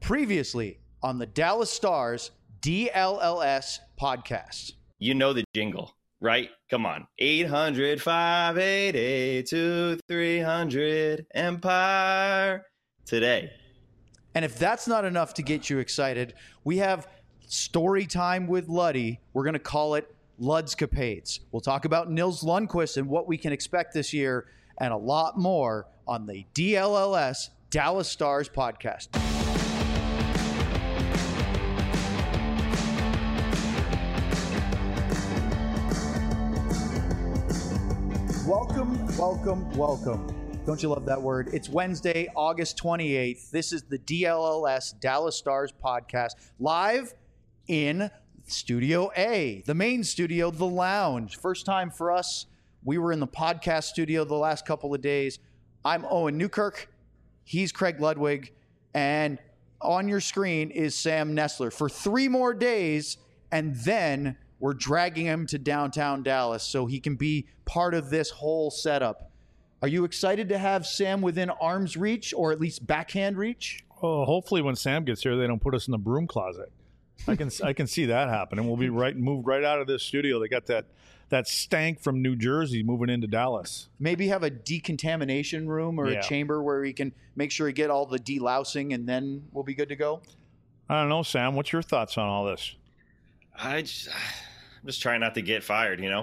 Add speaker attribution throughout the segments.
Speaker 1: Previously on the Dallas Stars DLLS podcast.
Speaker 2: You know the jingle, right? Come on. 800-588-2300 Empire today.
Speaker 1: And if that's not enough to get you excited, we have story time with Luddy. We're going to call it Ludscapades. We'll talk about Nils Lundkvist and what we can expect this year and a lot more on the DLLS Dallas Stars podcast. Welcome. Don't you love that word? It's Wednesday, August 28th. This is the DLLS Dallas Stars podcast, live in Studio A, the main studio, the lounge. First time for us. We were in the podcast studio the last couple of days. I'm Owen Newkirk. He's Craig Ludwig. And on your screen is Sam Nestler for 3 more days, and then we're dragging him to downtown Dallas so he can be part of this whole setup. Are you excited to have Sam within arm's reach, or at least backhand reach?
Speaker 3: Oh, hopefully when Sam gets here, they don't put us in the broom closet. I can see that happening. We'll be moved right out of this studio. They got that stank from New Jersey moving into Dallas.
Speaker 1: Maybe have a decontamination room or a chamber where we can make sure we get all the delousing, and then we'll be good to go.
Speaker 3: I don't know, Sam. What's your thoughts on all this?
Speaker 2: I'm just trying not to get fired, you know?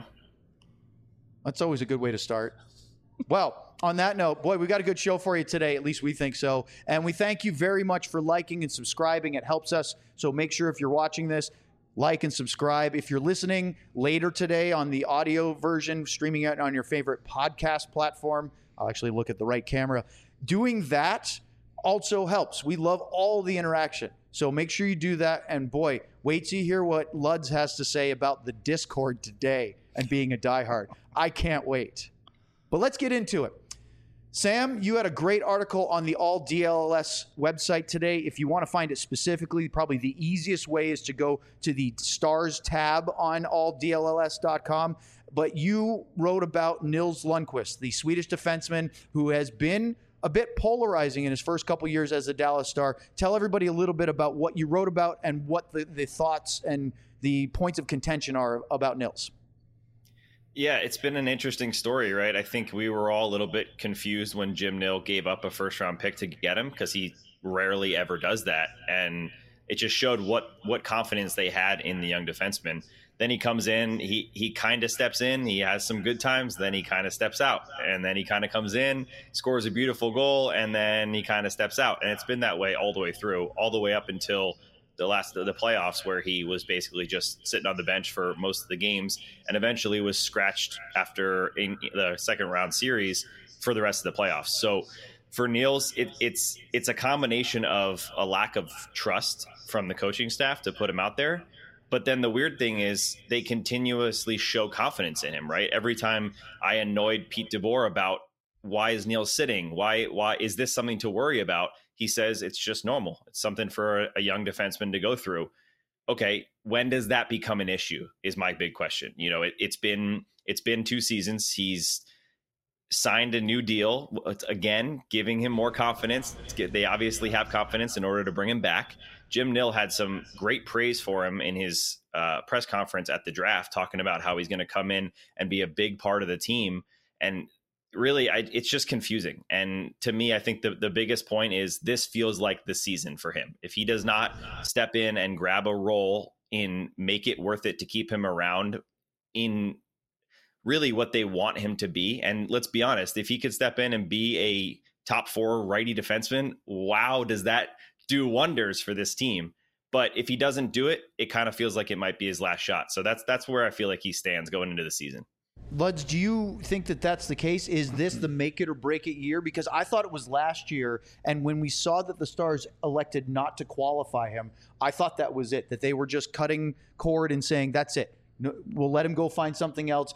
Speaker 1: That's always a good way to start. Well, on that note, boy, we got a good show for you today. At least we think so. And we thank you very much for liking and subscribing. It helps us. So make sure if you're watching this, like and subscribe. If you're listening later today on the audio version, streaming it on your favorite podcast platform, I'll actually look at the right camera. Doing that also helps. We love all the interaction. So make sure you do that. And boy, wait till you hear what Luds has to say about the Discord today and being a diehard. I can't wait. But let's get into it. Sam, you had a great article on the All DLLS website today. If you want to find it specifically, probably the easiest way is to go to the Stars tab on alldlls.com. But you wrote about Nils Lundkvist, the Swedish defenseman who has been a bit polarizing in his first couple years as a Dallas Star. Tell everybody a little bit about what you wrote about and what the thoughts and the points of contention are about Nils.
Speaker 2: Yeah, it's been an interesting story, right? I think we were all a little bit confused when Jim Nill gave up a first-round pick to get him, because he rarely ever does that. And it just showed what confidence they had in the young defenseman. Then he comes in, he kind of steps in, he has some good times, then he kind of steps out. And then he kind of comes in, scores a beautiful goal, and then he kind of steps out. And it's been that way all the way through, all the way up until the playoffs, where he was basically just sitting on the bench for most of the games and eventually was scratched after in the second round series for the rest of the playoffs. So for Nils, it's a combination of a lack of trust from the coaching staff to put him out there. But then the weird thing is they continuously show confidence in him, right? Every time I annoyed Pete DeBoer about why is Nils sitting? Why is this something to worry about? He says it's just normal. It's something for a young defenseman to go through. Okay, when does that become an issue is my big question. You know, it's been 2 seasons. He's signed a new deal, again, giving him more confidence. They obviously have confidence in order to bring him back. Jim Nill had some great praise for him in his press conference at the draft, talking about how he's going to come in and be a big part of the team. And really, it's just confusing. And to me, I think the biggest point is this feels like the season for him. If he does not step in and grab a role in make it worth it to keep him around in really what they want him to be. And let's be honest, if he could step in and be a top 4 righty defenseman, wow, does that do wonders for this team. But if he doesn't do it, it kind of feels like it might be his last shot. So that's where I feel like he stands going into the season.
Speaker 1: Luds, do you think that that's the case? Is this the make it or break it year? Because I thought it was last year, and when we saw that the Stars elected not to qualify him, I thought that was it, that they were just cutting cord and saying, that's it. No, we'll let him go find something else.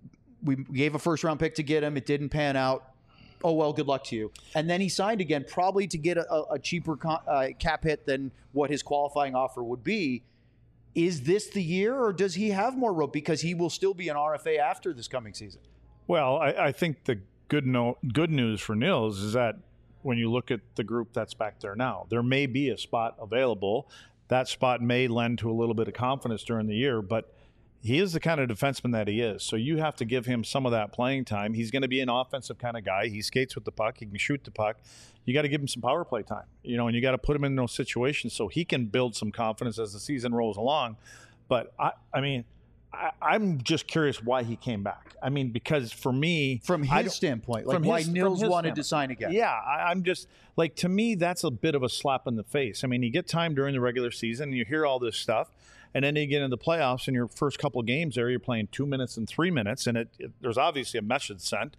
Speaker 1: We gave a first-round pick to get him. It didn't pan out. Oh, well, good luck to you. And then he signed again, probably to get a cheaper cap hit than what his qualifying offer would be. Is this the year, or does he have more rope because he will still be an RFA after this coming season?
Speaker 3: Well, I think the good news for Nils is that when you look at the group that's back there now. There may be a spot available. That spot may lend to a little bit of confidence during the year, but he is the kind of defenseman that he is. So you have to give him some of that playing time. He's going to be an offensive kind of guy. He skates with the puck. He can shoot the puck. You got to give him some power play time, and you got to put him in those situations so he can build some confidence as the season rolls along. But I'm just curious why he came back. I mean, because for me,
Speaker 1: from his standpoint, like why Nils wanted to sign again.
Speaker 3: Yeah, I'm just like, to me, that's a bit of a slap in the face. I mean, you get time during the regular season, and you hear all this stuff, and then you get into the playoffs, and your first couple of games there, you're playing 2 minutes and 3 minutes, and there's obviously a message sent.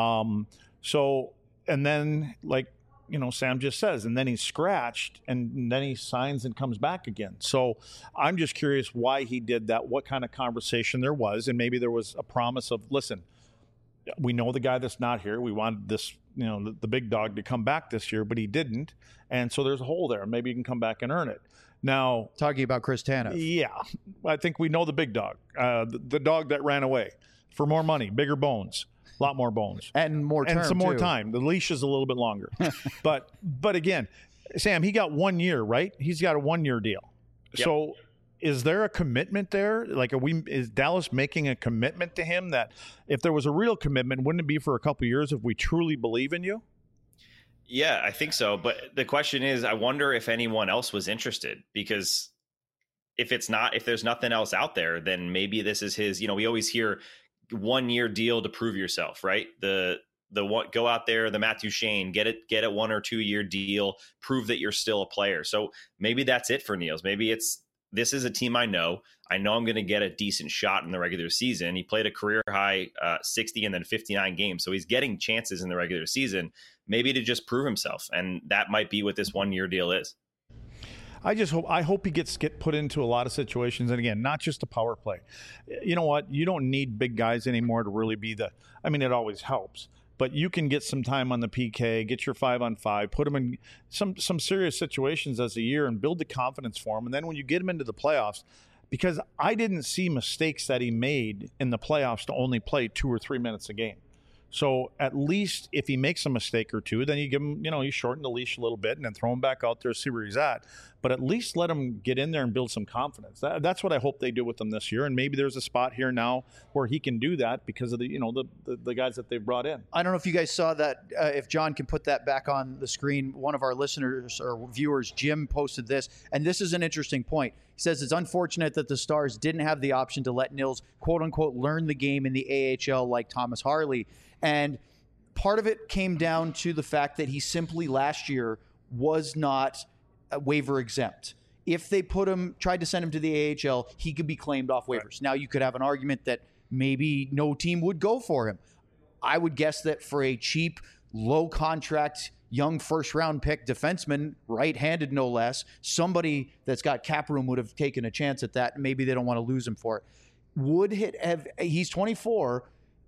Speaker 3: And then, like, Sam just says, and then he's scratched, and then he signs and comes back again. So I'm just curious why he did that, what kind of conversation there was, and maybe there was a promise of, listen, we know the guy that's not here. We wanted this, the big dog to come back this year, but he didn't. And so there's a hole there. Maybe you can come back and earn it. Now,
Speaker 1: talking about Chris Tanev.
Speaker 3: Yeah, I think we know the big dog, the dog that ran away for more money, bigger bones. A lot more bones.
Speaker 1: And more term,
Speaker 3: and some more
Speaker 1: too.
Speaker 3: time. The leash is a little bit longer. but again, Sam, he got 1 year, right? He's got a 1 year deal. Yep. So is there a commitment there? Like, is Dallas making a commitment to him that if there was a real commitment, wouldn't it be for a couple of years if we truly believe in you?
Speaker 2: Yeah, I think so. But the question is, I wonder if anyone else was interested, because if there's nothing else out there, then maybe this is his, we always hear 1 year deal to prove yourself, right? The one, go out there, the Matthew Shane, get a 1 or 2 year deal, prove that you're still a player. So maybe that's it for Nils. Maybe this is a team I know I'm going to get a decent shot in the regular season. He played a career high 60 and then 59 games. So he's getting chances in the regular season, maybe to just prove himself. And that might be what this 1 year deal is.
Speaker 3: I hope he gets put into a lot of situations. And again, not just a power play. You know what? You don't need big guys anymore to really be it always helps. But you can get some time on the PK, get your 5-on-5, put him in some serious situations as a year and build the confidence for him. And then when you get him into the playoffs, because I didn't see mistakes that he made in the playoffs to only play 2 or 3 minutes a game. So at least if he makes a mistake or two, then you give him, you shorten the leash a little bit and then throw him back out there, see where he's at. But at least let him get in there and build some confidence. That's what I hope they do with him this year. And maybe there's a spot here now where he can do that because of the guys that they've brought in.
Speaker 1: I don't know if you guys saw that. If John can put that back on the screen, one of our listeners or viewers, Jim, posted this. And this is an interesting point. He says it's unfortunate that the Stars didn't have the option to let Nils, quote unquote, learn the game in the AHL like Thomas Harley. And part of it came down to the fact that he simply last year was not waiver exempt. If they tried to send him to the AHL, he could be claimed off waivers. Right. Now, you could have an argument that maybe no team would go for him. I would guess that for a cheap, low contract, young first-round pick defenseman, right-handed no less, somebody that's got cap room would have taken a chance at that. Maybe they don't want to lose him for it. He's 24.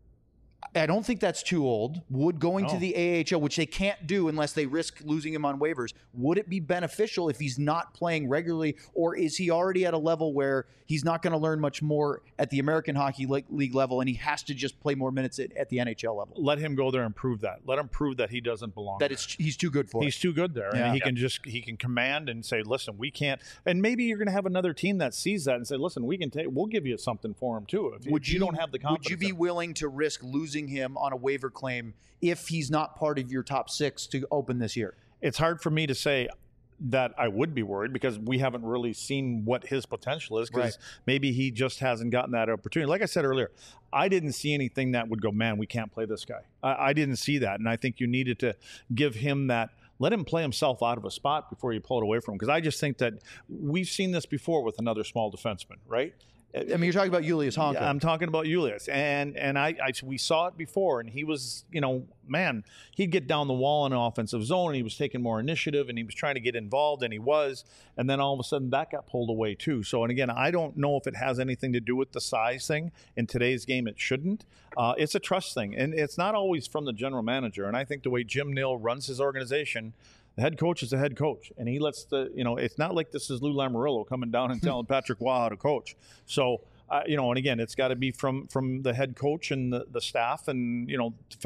Speaker 1: I don't think that's too old. Would going to the AHL, which they can't do unless they risk losing him on waivers, would it be beneficial if he's not playing regularly, or is he already at a level where he's not going to learn much more at the American Hockey League level and he has to just play more minutes at the NHL level?
Speaker 3: Let him go there and prove that. Let him prove that he doesn't belong there.
Speaker 1: He's too good for it.
Speaker 3: He's too good there. Yeah. And he can command and say, listen, we can't. And maybe you're going to have another team that sees that and say, listen, we'll give you something for him too. If you don't have the confidence.
Speaker 1: Would you be willing to risk losing him on a waiver claim if he's not part of your top 6 to open this year?
Speaker 3: It's hard for me to say that I would be worried because we haven't really seen what his potential is, because maybe he just hasn't gotten that opportunity. Like I said earlier, I didn't see anything that would go, man, we can't play this guy. I didn't see that. And I think you needed to give him that. Let him play himself out of a spot before you pull it away from him. Because I just think that we've seen this before with another small defenseman, right?
Speaker 1: I mean, you're talking about Julius Honka.
Speaker 3: Yeah, I'm talking about Julius, and we saw it before, and he was, man, he'd get down the wall in an offensive zone, and he was taking more initiative, and he was trying to get involved, and he was, and then all of a sudden that got pulled away too. So, and again, I don't know if it has anything to do with the size thing. In today's game, it shouldn't. It's a trust thing, and it's not always from the general manager. And I think the way Jim Nill runs his organization, the head coach is the head coach, and he lets it's not like this is Lou Lamoriello coming down and telling Patrick Waugh how to coach. So, and again, it's got to be from the head coach and the staff and, defense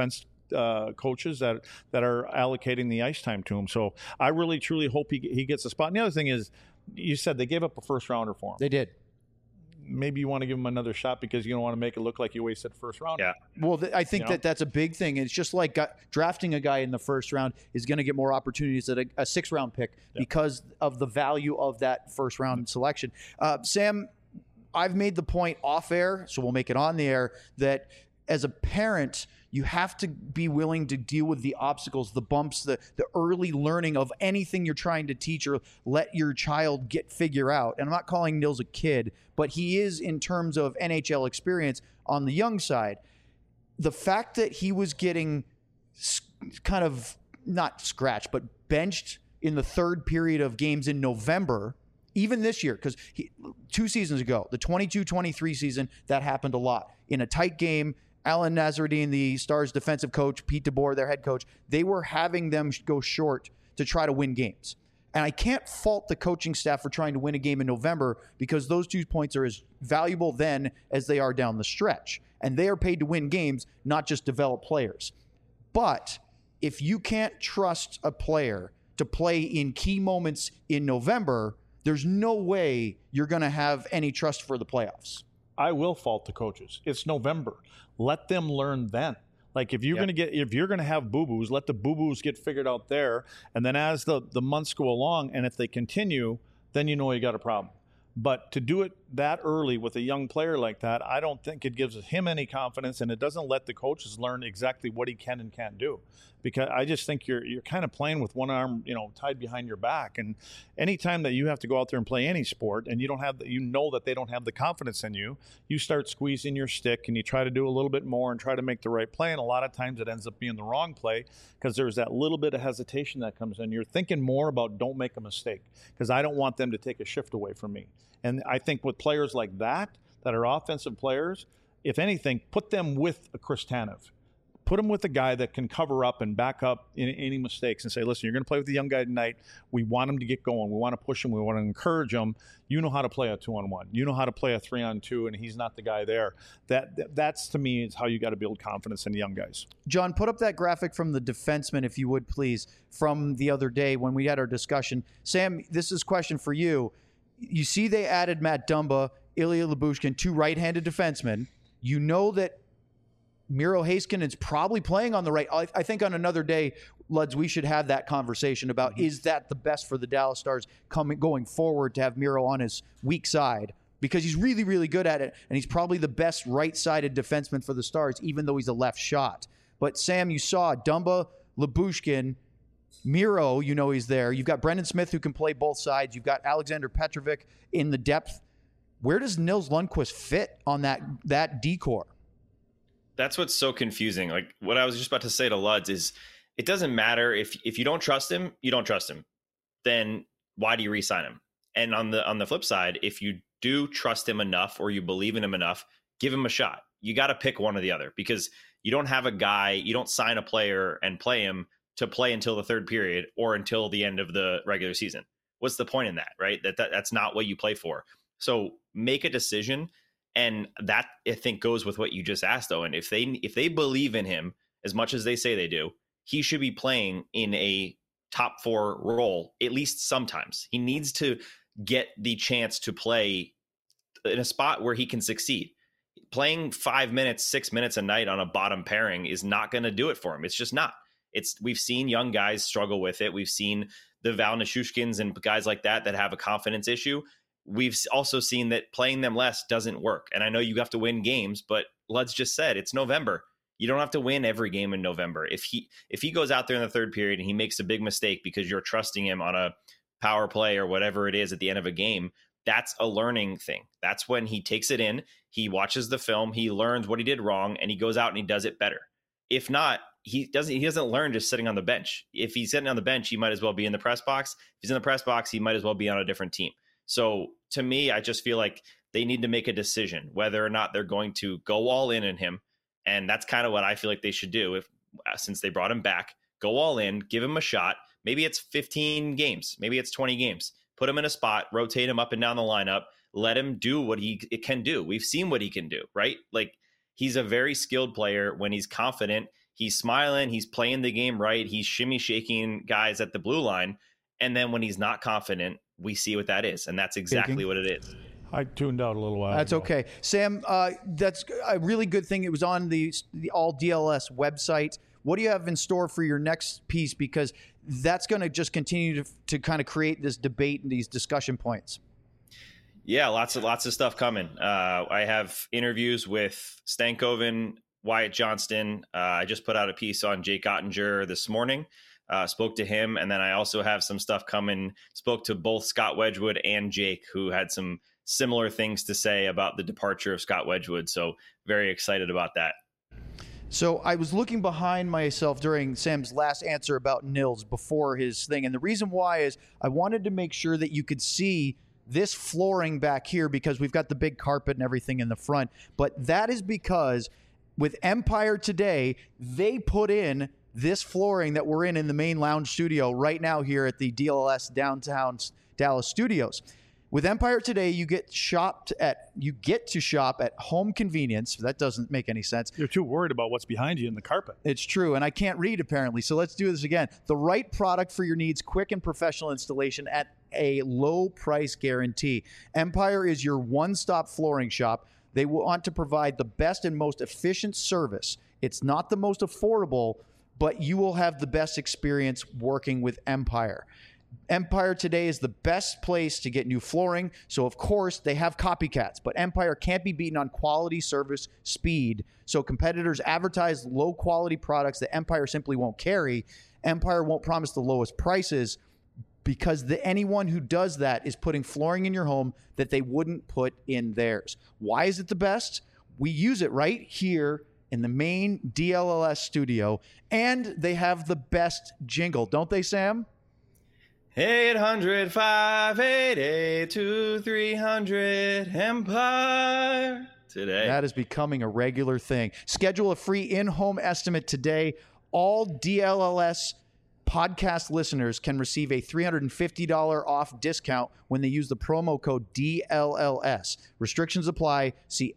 Speaker 3: coaches that are allocating the ice time to him. So I really, truly hope he gets a spot. And the other thing is, you said they gave up a first rounder for him.
Speaker 1: They did.
Speaker 3: Maybe you want to give him another shot because you don't want to make it look like you wasted first round.
Speaker 2: Yeah.
Speaker 1: Well, I think that's a big thing. It's just like drafting a guy in the first round is going to get more opportunities at a sixth-round pick because of the value of that first-round selection. Sam, I've made the point off air, so we'll make it on the air, that as a parent, you have to be willing to deal with the obstacles, the bumps, the early learning of anything you're trying to teach or let your child figure out. And I'm not calling Nils a kid, but he is in terms of NHL experience on the young side. The fact that he was getting kind of not scratched, but benched in the third period of games in November, even this year, because 2 seasons ago, the 22-23 season, that happened a lot. In a tight game, Alan Nazardine, the Stars defensive coach, Pete DeBoer, their head coach, they were having them go short to try to win games. And I can't fault the coaching staff for trying to win a game in November because those 2 points are as valuable then as they are down the stretch. And they are paid to win games, not just develop players. But if you can't trust a player to play in key moments in November, there's no way you're going to have any trust for the playoffs.
Speaker 3: I will fault the coaches. It's November. Let them learn then. Like if you're going to have boo-boos, let the boo-boos get figured out there. And then as the months go along, and if they continue, then you know you got a problem. But to do it that early with a young player like that, I don't think it gives him any confidence, and it doesn't let the coaches learn exactly what he can and can't do. Because I just think you're kind of playing with one arm, tied behind your back. And anytime that you have to go out there and play any sport, and you know that they don't have the confidence in you, you start squeezing your stick and you try to do a little bit more and try to make the right play. And a lot of times it ends up being the wrong play because there's that little bit of hesitation that comes in. You're thinking more about don't make a mistake because I don't want them to take a shift away from me. And I think with players like that are offensive players, if anything, put them with a Chris Tanev. Put him with a guy that can cover up and back up any mistakes and say, listen, you're going to play with the young guy tonight. We want him to get going. We want to push him. We want to encourage him. You know how to play a 2-on-1. You know how to play a 3-on-2, and he's not the guy there. That's to me, is how you got to build confidence in the young guys.
Speaker 1: John, put up that graphic from the defenseman, if you would, please, from the other day when we had our discussion. Sam, this is a question for you. You see they added Matt Dumba, Ilya Lyubushkin, 2 right-handed defensemen. You know that Miro Heiskanen is probably playing on the right. I think on another day, Luds, we should have that conversation about is that the best for the Dallas Stars going forward to have Miro on his weak side because he's really, really good at it, and he's probably the best right-sided defenseman for the Stars, even though he's a left shot. But, Sam, you saw Dumba, Lyubushkin, Miro, he's there. You've got Brendan Smith who can play both sides. You've got Alexander Petrovic in the depth. Where does Nils Lundkvist fit on that decor?
Speaker 2: That's what's so confusing. Like what I was just about to say to Luds is it doesn't matter if you don't trust him, you don't trust him. Then why do you re-sign him? And on the flip side, if you do trust him enough or you believe in him enough, give him a shot. You got to pick one or the other because you don't have a guy, you don't sign a player and play him to play until the third period or until the end of the regular season. What's the point in that, right? That's not what you play for. So make a decision. And that, I think, goes with what you just asked, Owen. If they believe in him as much as they say they do, he should be playing in a top 4 role, at least sometimes. He needs to get the chance to play in a spot where he can succeed. Playing 5 minutes, 6 minutes a night on a bottom pairing is not going to do it for him. It's just not. We've seen young guys struggle with it. We've seen the Val Nichushkins and guys like that have a confidence issue. We've also seen that playing them less doesn't work. And I know you have to win games, but Luds just said it's November. You don't have to win every game in November. If he goes out there in the third period and he makes a big mistake because you're trusting him on a power play or whatever it is at the end of a game, that's a learning thing. That's when he takes it in, he watches the film, he learns what he did wrong, and he goes out and he does it better. If not, he doesn't learn just sitting on the bench. If he's sitting on the bench, he might as well be in the press box. If he's in the press box, he might as well be on a different team. So to me, I just feel like they need to make a decision whether or not they're going to go all in him. And that's kind of what I feel like they should do since they brought him back. Go all in, give him a shot. Maybe it's 15 games. Maybe it's 20 games. Put him in a spot, rotate him up and down the lineup. Let him do what he can do. We've seen what he can do, right? Like he's a very skilled player when he's confident. he's smiling, he's playing the game right, he's shimmy shaking guys at the blue line. And then when he's not confident, we see what that is. And that's exactly what it is.
Speaker 3: I tuned out a little while
Speaker 1: That's
Speaker 3: ago.
Speaker 1: okay. Sam, that's a really good thing. It was on the All DLS website. What do you have in store for your next piece? Because that's going to just continue to kind of create this debate and these discussion points.
Speaker 2: Yeah, lots of stuff coming. I have interviews with Stankoven, Wyatt Johnston. I just put out a piece on Jake Ottinger this morning. Spoke to him, and then I also have some stuff coming. Spoke to both Scott Wedgwood and Jake, who had some similar things to say about the departure of Scott Wedgwood. So very excited about that.
Speaker 1: So I was looking behind myself during Sam's last answer about Nils before his thing. And the reason why is I wanted to make sure that you could see this flooring back here because we've got the big carpet and everything in the front. But that is because with Empire today, they put in this flooring that we're in the main lounge studio right now here at the DLS downtown Dallas studios. With Empire today, you get to shop at home convenience. That doesn't make any sense.
Speaker 3: You're too worried about what's behind you in the carpet.
Speaker 1: It's true, and I can't read apparently. So let's do this again. The right product for your needs, quick and professional installation at a low price guarantee. Empire is your one-stop flooring shop. They want to provide the best and most efficient service. It's not the most affordable, but you will have the best experience working with Empire. Empire today is the best place to get new flooring. So, of course, they have copycats, but Empire can't be beaten on quality, service, speed. So competitors advertise low-quality products that Empire simply won't carry. Empire won't promise the lowest prices because anyone who does that is putting flooring in your home that they wouldn't put in theirs. Why is it the best? We use it right here in the main DLLS studio, and they have the best jingle, don't they, Sam?
Speaker 2: 800-588-2300 Empire today.
Speaker 1: That is becoming a regular thing. Schedule a free in-home estimate today. All DLLS podcast listeners can receive a $350 off discount when they use the promo code DLLS. Restrictions apply. See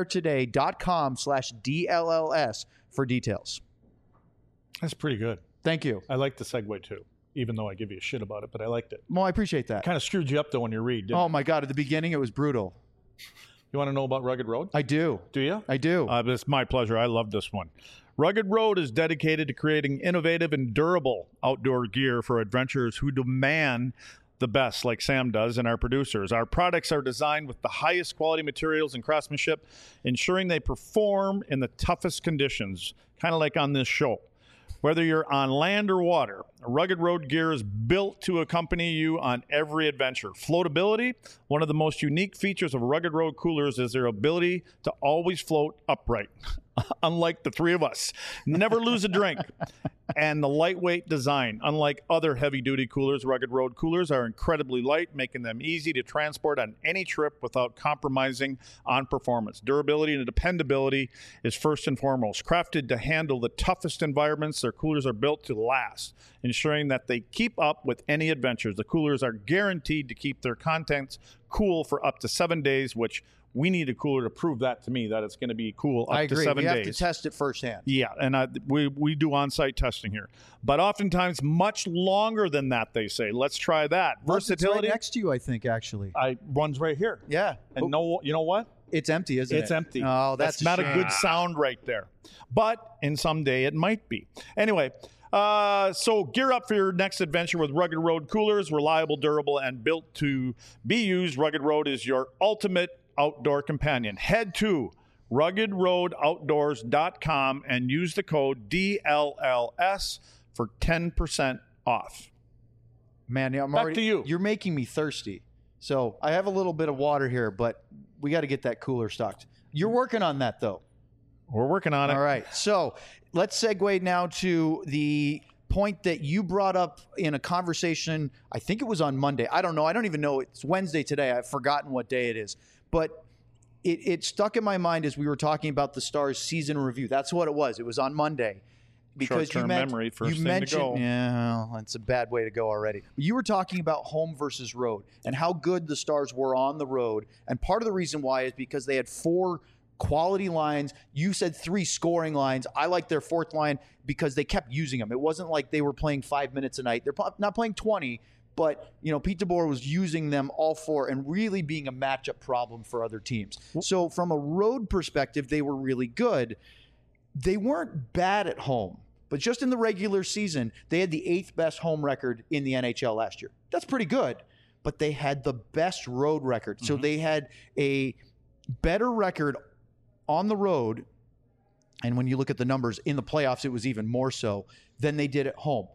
Speaker 1: empiretoday.com/DLLS for details.
Speaker 3: That's pretty good.
Speaker 1: Thank you.
Speaker 3: I like the segue too, even though I give you a shit about it, but I liked it.
Speaker 1: Well, I appreciate that.
Speaker 3: Kind of screwed you up though when you read, didn't
Speaker 1: Oh
Speaker 3: it?
Speaker 1: my God, at the beginning it was brutal.
Speaker 3: You want to know about Rugged Road?
Speaker 1: I do.
Speaker 3: Do you?
Speaker 1: I do.
Speaker 3: It's my pleasure. I love this one. Rugged Road is dedicated to creating innovative and durable outdoor gear for adventurers who demand the best, like Sam does and our producers. Our products are designed with the highest quality materials and craftsmanship, ensuring they perform in the toughest conditions, kind of like on this show. Whether you're on land or water, Rugged Road gear is built to accompany you on every adventure. Floatability, one of the most unique features of Rugged Road coolers is their ability to always float upright, unlike the three of us. Never lose a drink. And the lightweight design. Unlike other heavy-duty coolers, Rugged Road coolers are incredibly light, making them easy to transport on any trip without compromising on performance. Durability and dependability is first and foremost. Crafted to handle the toughest environments, their coolers are built to last, ensuring that they keep up with any adventures. The coolers are guaranteed to keep their contents cool for up to 7 days, which we need a cooler to prove that to me, that it's going to be cool up
Speaker 1: I agree.
Speaker 3: to 7 days.
Speaker 1: We have to test it firsthand.
Speaker 3: Yeah, and we do on-site testing here. But oftentimes much longer than that, they say. Let's try that. Versatility.
Speaker 1: It's right next to you, I think, actually.
Speaker 3: Runs right here.
Speaker 1: Yeah.
Speaker 3: And no, you know what?
Speaker 1: It's empty, isn't it?
Speaker 3: It's empty.
Speaker 1: Oh, that's
Speaker 3: not
Speaker 1: a
Speaker 3: a good sound right there. But in someday it might be. Anyway, so gear up for your next adventure with Rugged Road coolers. Reliable, durable, and built to be used. Rugged Road is your ultimate outdoor companion. Head to ruggedroadoutdoors.com and use the code DLLS for 10% off.
Speaker 1: Man, I'm
Speaker 3: Back
Speaker 1: already,
Speaker 3: to you.
Speaker 1: You're making me thirsty. So I have a little bit of water here, but we got to get that cooler stocked. You're working on that, though.
Speaker 3: We're working on it.
Speaker 1: All right. So let's segue now to the point that you brought up in a conversation. I think it was on Monday. I don't know. I don't even know. It's Wednesday today. I've forgotten what day it is. But it stuck in my mind as we were talking about the Stars season review. That's what it was. It was on Monday. Because
Speaker 3: Short-term memory, first
Speaker 1: you
Speaker 3: thing to
Speaker 1: mentioned,
Speaker 3: go.
Speaker 1: yeah, well, it's a bad way to go already. You were talking about home versus road and how good the Stars were on the road. And part of the reason why is because they had 4 quality lines. You said 3 scoring lines. I like their 4th line because they kept using them. It wasn't like they were playing 5 minutes a night. They're not playing 20, but Pete DeBoer was using them all 4 and really being a matchup problem for other teams. So from a road perspective, they were really good. They weren't bad at home, but just in the regular season, they had the 8th best home record in the NHL last year. That's pretty good, but they had the best road record. So they had a better record on the road, and when you look at the numbers in the playoffs, it was even more so than they did at home.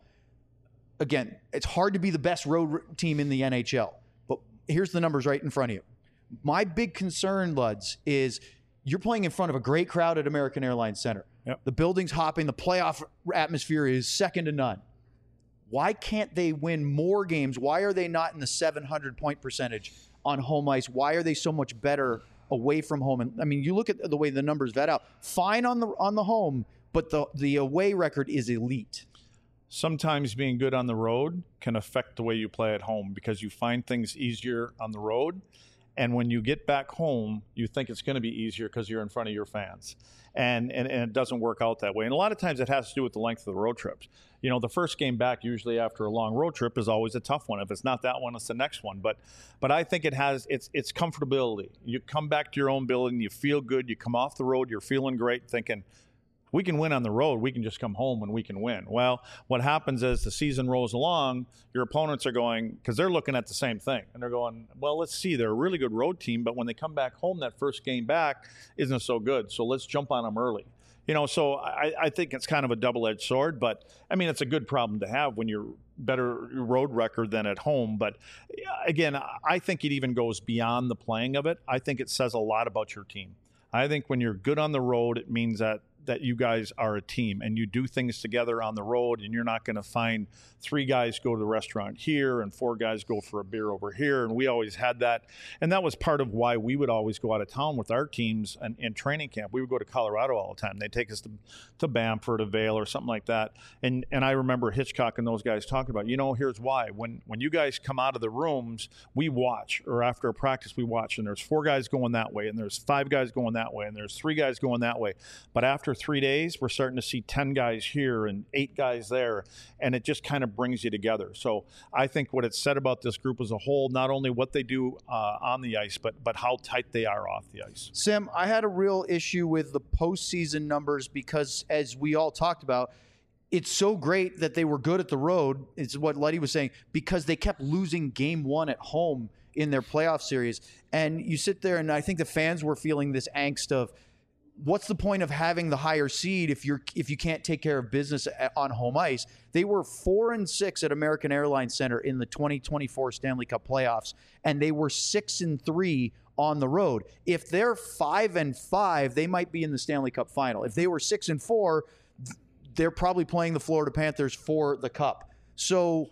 Speaker 1: Again, it's hard to be the best road team in the NHL, but here's the numbers right in front of you. My big concern, Luds, is you're playing in front of a great crowd at American Airlines Center.
Speaker 3: Yep.
Speaker 1: The building's hopping. The playoff atmosphere is second to none. Why can't they win more games? Why are they not in the 700-point percentage on home ice? Why are they so much better away from home? And I mean, you look at the way the numbers vet out. Fine on the home, but the away record is elite.
Speaker 3: Sometimes being good on the road can affect the way you play at home because you find things easier on the road. And when you get back home, you think it's going to be easier because you're in front of your fans. And it doesn't work out that way. And a lot of times it has to do with the length of the road trips. The first game back, usually after a long road trip, is always a tough one. If it's not that one, it's the next one. But I think it's comfortability. You come back to your own building, you feel good, you come off the road, you're feeling great, thinking, we can win on the road. We can just come home and we can win. Well, what happens is the season rolls along, your opponents are going, because they're looking at the same thing, and they're going, well, let's see, they're a really good road team, but when they come back home, that first game back isn't so good, so let's jump on them early. So I think it's kind of a double-edged sword, but, I mean, it's a good problem to have when you're better road record than at home. But, again, I think it even goes beyond the playing of it. I think it says a lot about your team. I think when you're good on the road, it means that you guys are a team and you do things together on the road, and you're not going to find 3 guys go to the restaurant here and 4 guys go for a beer over here. And we always had that. And that was part of why we would always go out of town with our teams in training camp. We would go to Colorado all the time. They'd take us to Banff or to Vail or something like that. And I remember Hitchcock and those guys talking about, here's why. When you guys come out of the rooms, we watch, or after a practice, we watch, and there's 4 guys going that way, and there's 5 guys going that way, and there's 3 guys going that way. But after 3 days, we're starting to see 10 guys here and 8 guys there, and it just kind of brings you together. So I think what it said about this group as a whole, not only what they do on the ice, but how tight they are off the ice.
Speaker 1: Sam, I had a real issue with the postseason numbers because, as we all talked about, it's so great that they were good at the road. It's what Luddy was saying, because they kept losing game 1 at home in their playoff series. And you sit there, and I think the fans were feeling this angst of, what's the point of having the higher seed if you can't take care of business on home ice? They were 4-6 at American Airlines Center in the 2024 Stanley Cup playoffs, and they were 6-3 on the road. If they're 5-5, they might be in the Stanley Cup final. If they were 6-4, they're probably playing the Florida Panthers for the Cup. So,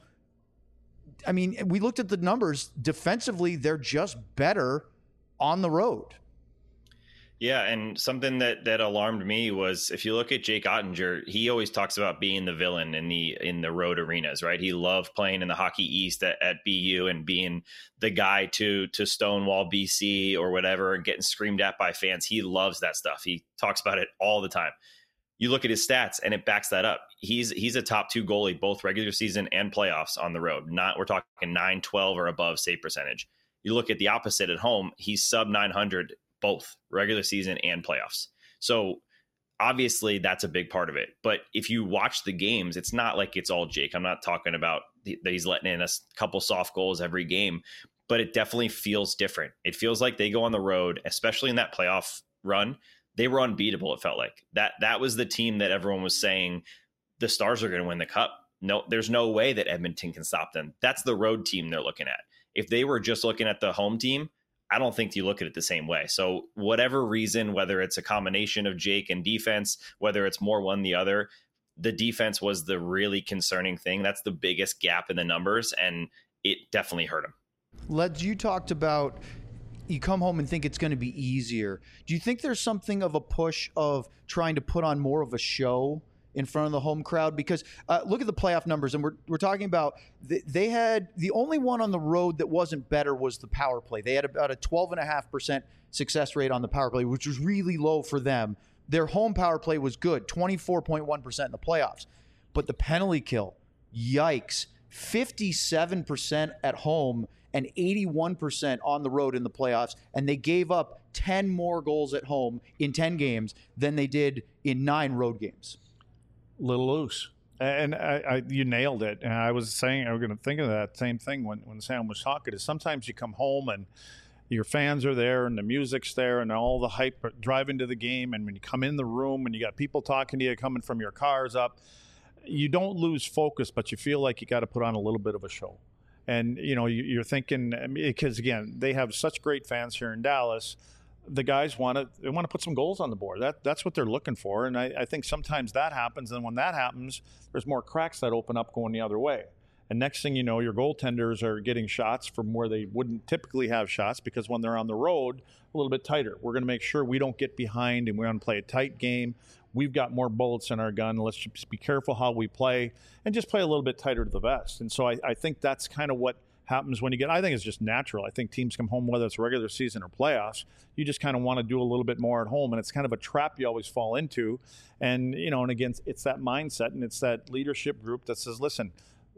Speaker 1: I mean, we looked at the numbers. Defensively, they're just better on the road.
Speaker 2: Yeah, and something that alarmed me was, if you look at Jake Ottinger, he always talks about being the villain in the road arenas, right? He loved playing in the Hockey East at BU and being the guy to stonewall BC or whatever and getting screamed at by fans. He loves that stuff. He talks about it all the time. You look at his stats and it backs that up. He's a top 2 goalie, both regular season and playoffs on the road. We're talking 912 or above save percentage. You look at the opposite at home, he's sub 900 both regular season and playoffs. So obviously that's a big part of it. But if you watch the games, it's not like it's all Jake. I'm not talking about that he's letting in a couple soft goals every game, but it definitely feels different. It feels like they go on the road, especially in that playoff run. They were unbeatable. It felt like that was the team that everyone was saying the Stars are going to win the Cup. No, there's no way that Edmonton can stop them. That's the road team they're looking at. If they were just looking at the home team, I don't think you look at it the same way. So whatever reason, whether it's a combination of Jake and defense, whether it's more one the other, the defense was the really concerning thing. That's the biggest gap in the numbers, and it definitely hurt him.
Speaker 1: Leds, you talked about you come home and think it's going to be easier. Do you think there's something of a push of trying to put on more of a show in front of the home crowd, because look at the playoff numbers, and we're talking about they had the only one on the road that wasn't better was the power play. They had about a 12.5% success rate on the power play, which was really low for them. Their home power play was good, 24.1% in the playoffs. But the penalty kill, yikes, 57% at home and 81% on the road in the playoffs. And they gave up 10 more goals at home in 10 games than they did in 9 road games.
Speaker 3: Little loose. And you nailed it. And I was saying, I was going to think of that same thing when Sam was talking, is sometimes you come home and your fans are there and the music's there and all the hype driving to the game. And when you come in the room and you got people talking to you coming from your cars up, you don't lose focus, but you feel like you got to put on a little bit of a show. And, you know, you're thinking, because again, they have such great fans here in Dallas. The guys want to put some goals on the board. That's what they're looking for. And I think sometimes that happens. And when that happens, there's more cracks that open up going the other way. And next thing you know, your goaltenders are getting shots from where they wouldn't typically have shots, because when they're on the road, a little bit tighter. We're going to make sure we don't get behind, and we're going to play a tight game. We've got more bullets in our gun. Let's just be careful how we play and just play a little bit tighter to the vest. And so I think that's kind of what happens when you get, I think it's just natural. I think teams come home, whether it's regular season or playoffs, you just kind of want to do a little bit more at home. And it's kind of a trap you always fall into. And, you know, and again, it's that mindset and it's that leadership group that says, listen,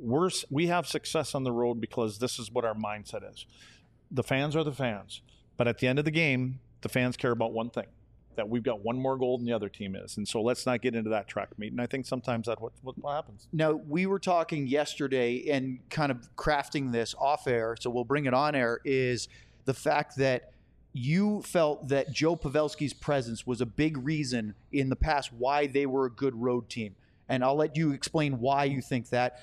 Speaker 3: we have success on the road because this is what our mindset is. The fans are the fans. But at the end of the game, the fans care about one thing, that we've got one more goal than the other team is. And so let's not get into that track meet. And I think sometimes that's what happens.
Speaker 1: Now, we were talking yesterday and kind of crafting this off air, so we'll bring it on air, is the fact that you felt that Joe Pavelski's presence was a big reason in the past why they were a good road team. And I'll let you explain why you think that.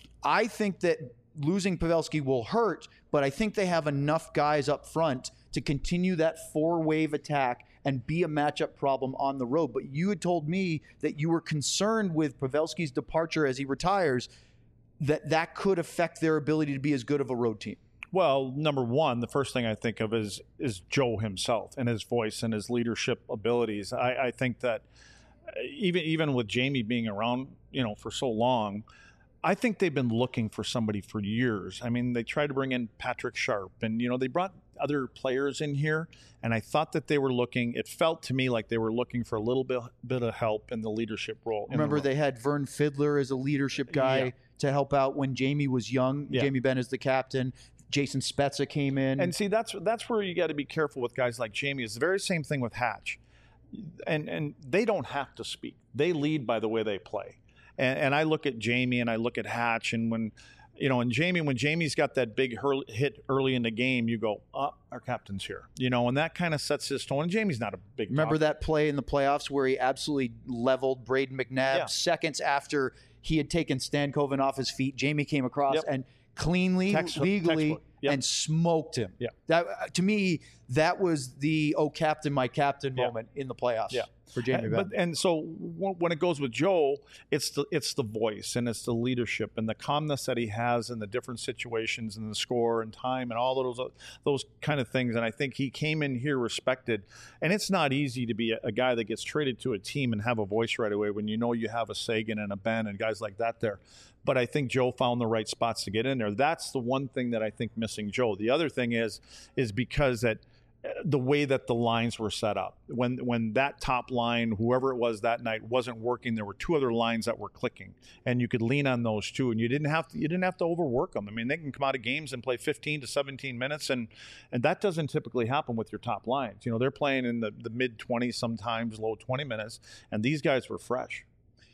Speaker 1: I think that losing Pavelski will hurt, but I think they have enough guys up front to continue that 4-wave attack and be a matchup problem on the road. But you had told me that you were concerned with Pavelski's departure as he retires, that could affect their ability to be as good of a road team.
Speaker 3: Well, number one, the first thing I think of is Joe himself and his voice and his leadership abilities. I think that even with Jamie being around, you know, for so long, I think they've been looking for somebody for years. I mean, they tried to bring in Patrick Sharp, and, you know, they brought other players in here, and I thought that they were looking, it felt to me like they were looking for a little bit of help in the leadership role.
Speaker 1: Remember, they had Vern Fiddler as a leadership guy to help out when Jamie was young. Yeah. Jamie Benn is the captain. Jason Spezza came in.
Speaker 3: And see, that's where you got to be careful with guys like Jamie. It's the very same thing with Hatch. And they don't have to speak. They lead by the way they play. And I look at Jamie and I look at Hatch, and when Jamie's got that big hit early in the game, you go, our captain's here, you know, and that kind of sets his tone. And Jamie's not a big
Speaker 1: Remember that play in the playoffs where he absolutely leveled Braden McNabb seconds after he had taken Stankoven off his feet. Jamie came across and cleanly, legally, and smoked him. Yeah. That, to me, that was the captain, my captain moment in the playoffs. Yeah. For Jamie Benn.
Speaker 3: And so when it goes with Joe, it's the voice and it's the leadership and the calmness that he has in the different situations and the score and time and all those kind of things. And I think he came in here respected. And it's not easy to be a guy that gets traded to a team and have a voice right away when you know you have a Sagan and a Benn and guys like that there. But I think Joe found the right spots to get in there. That's the one thing that I think missing Joe. The other thing is because that the way that the lines were set up. When that top line, whoever it was that night, wasn't working, there were two other lines that were clicking, and you could lean on those two, and you didn't have to overwork them. I mean, they can come out of games and play 15 to 17 minutes, and that doesn't typically happen with your top lines. You know, they're playing in the mid-20s, sometimes low 20 minutes, and these guys were fresh.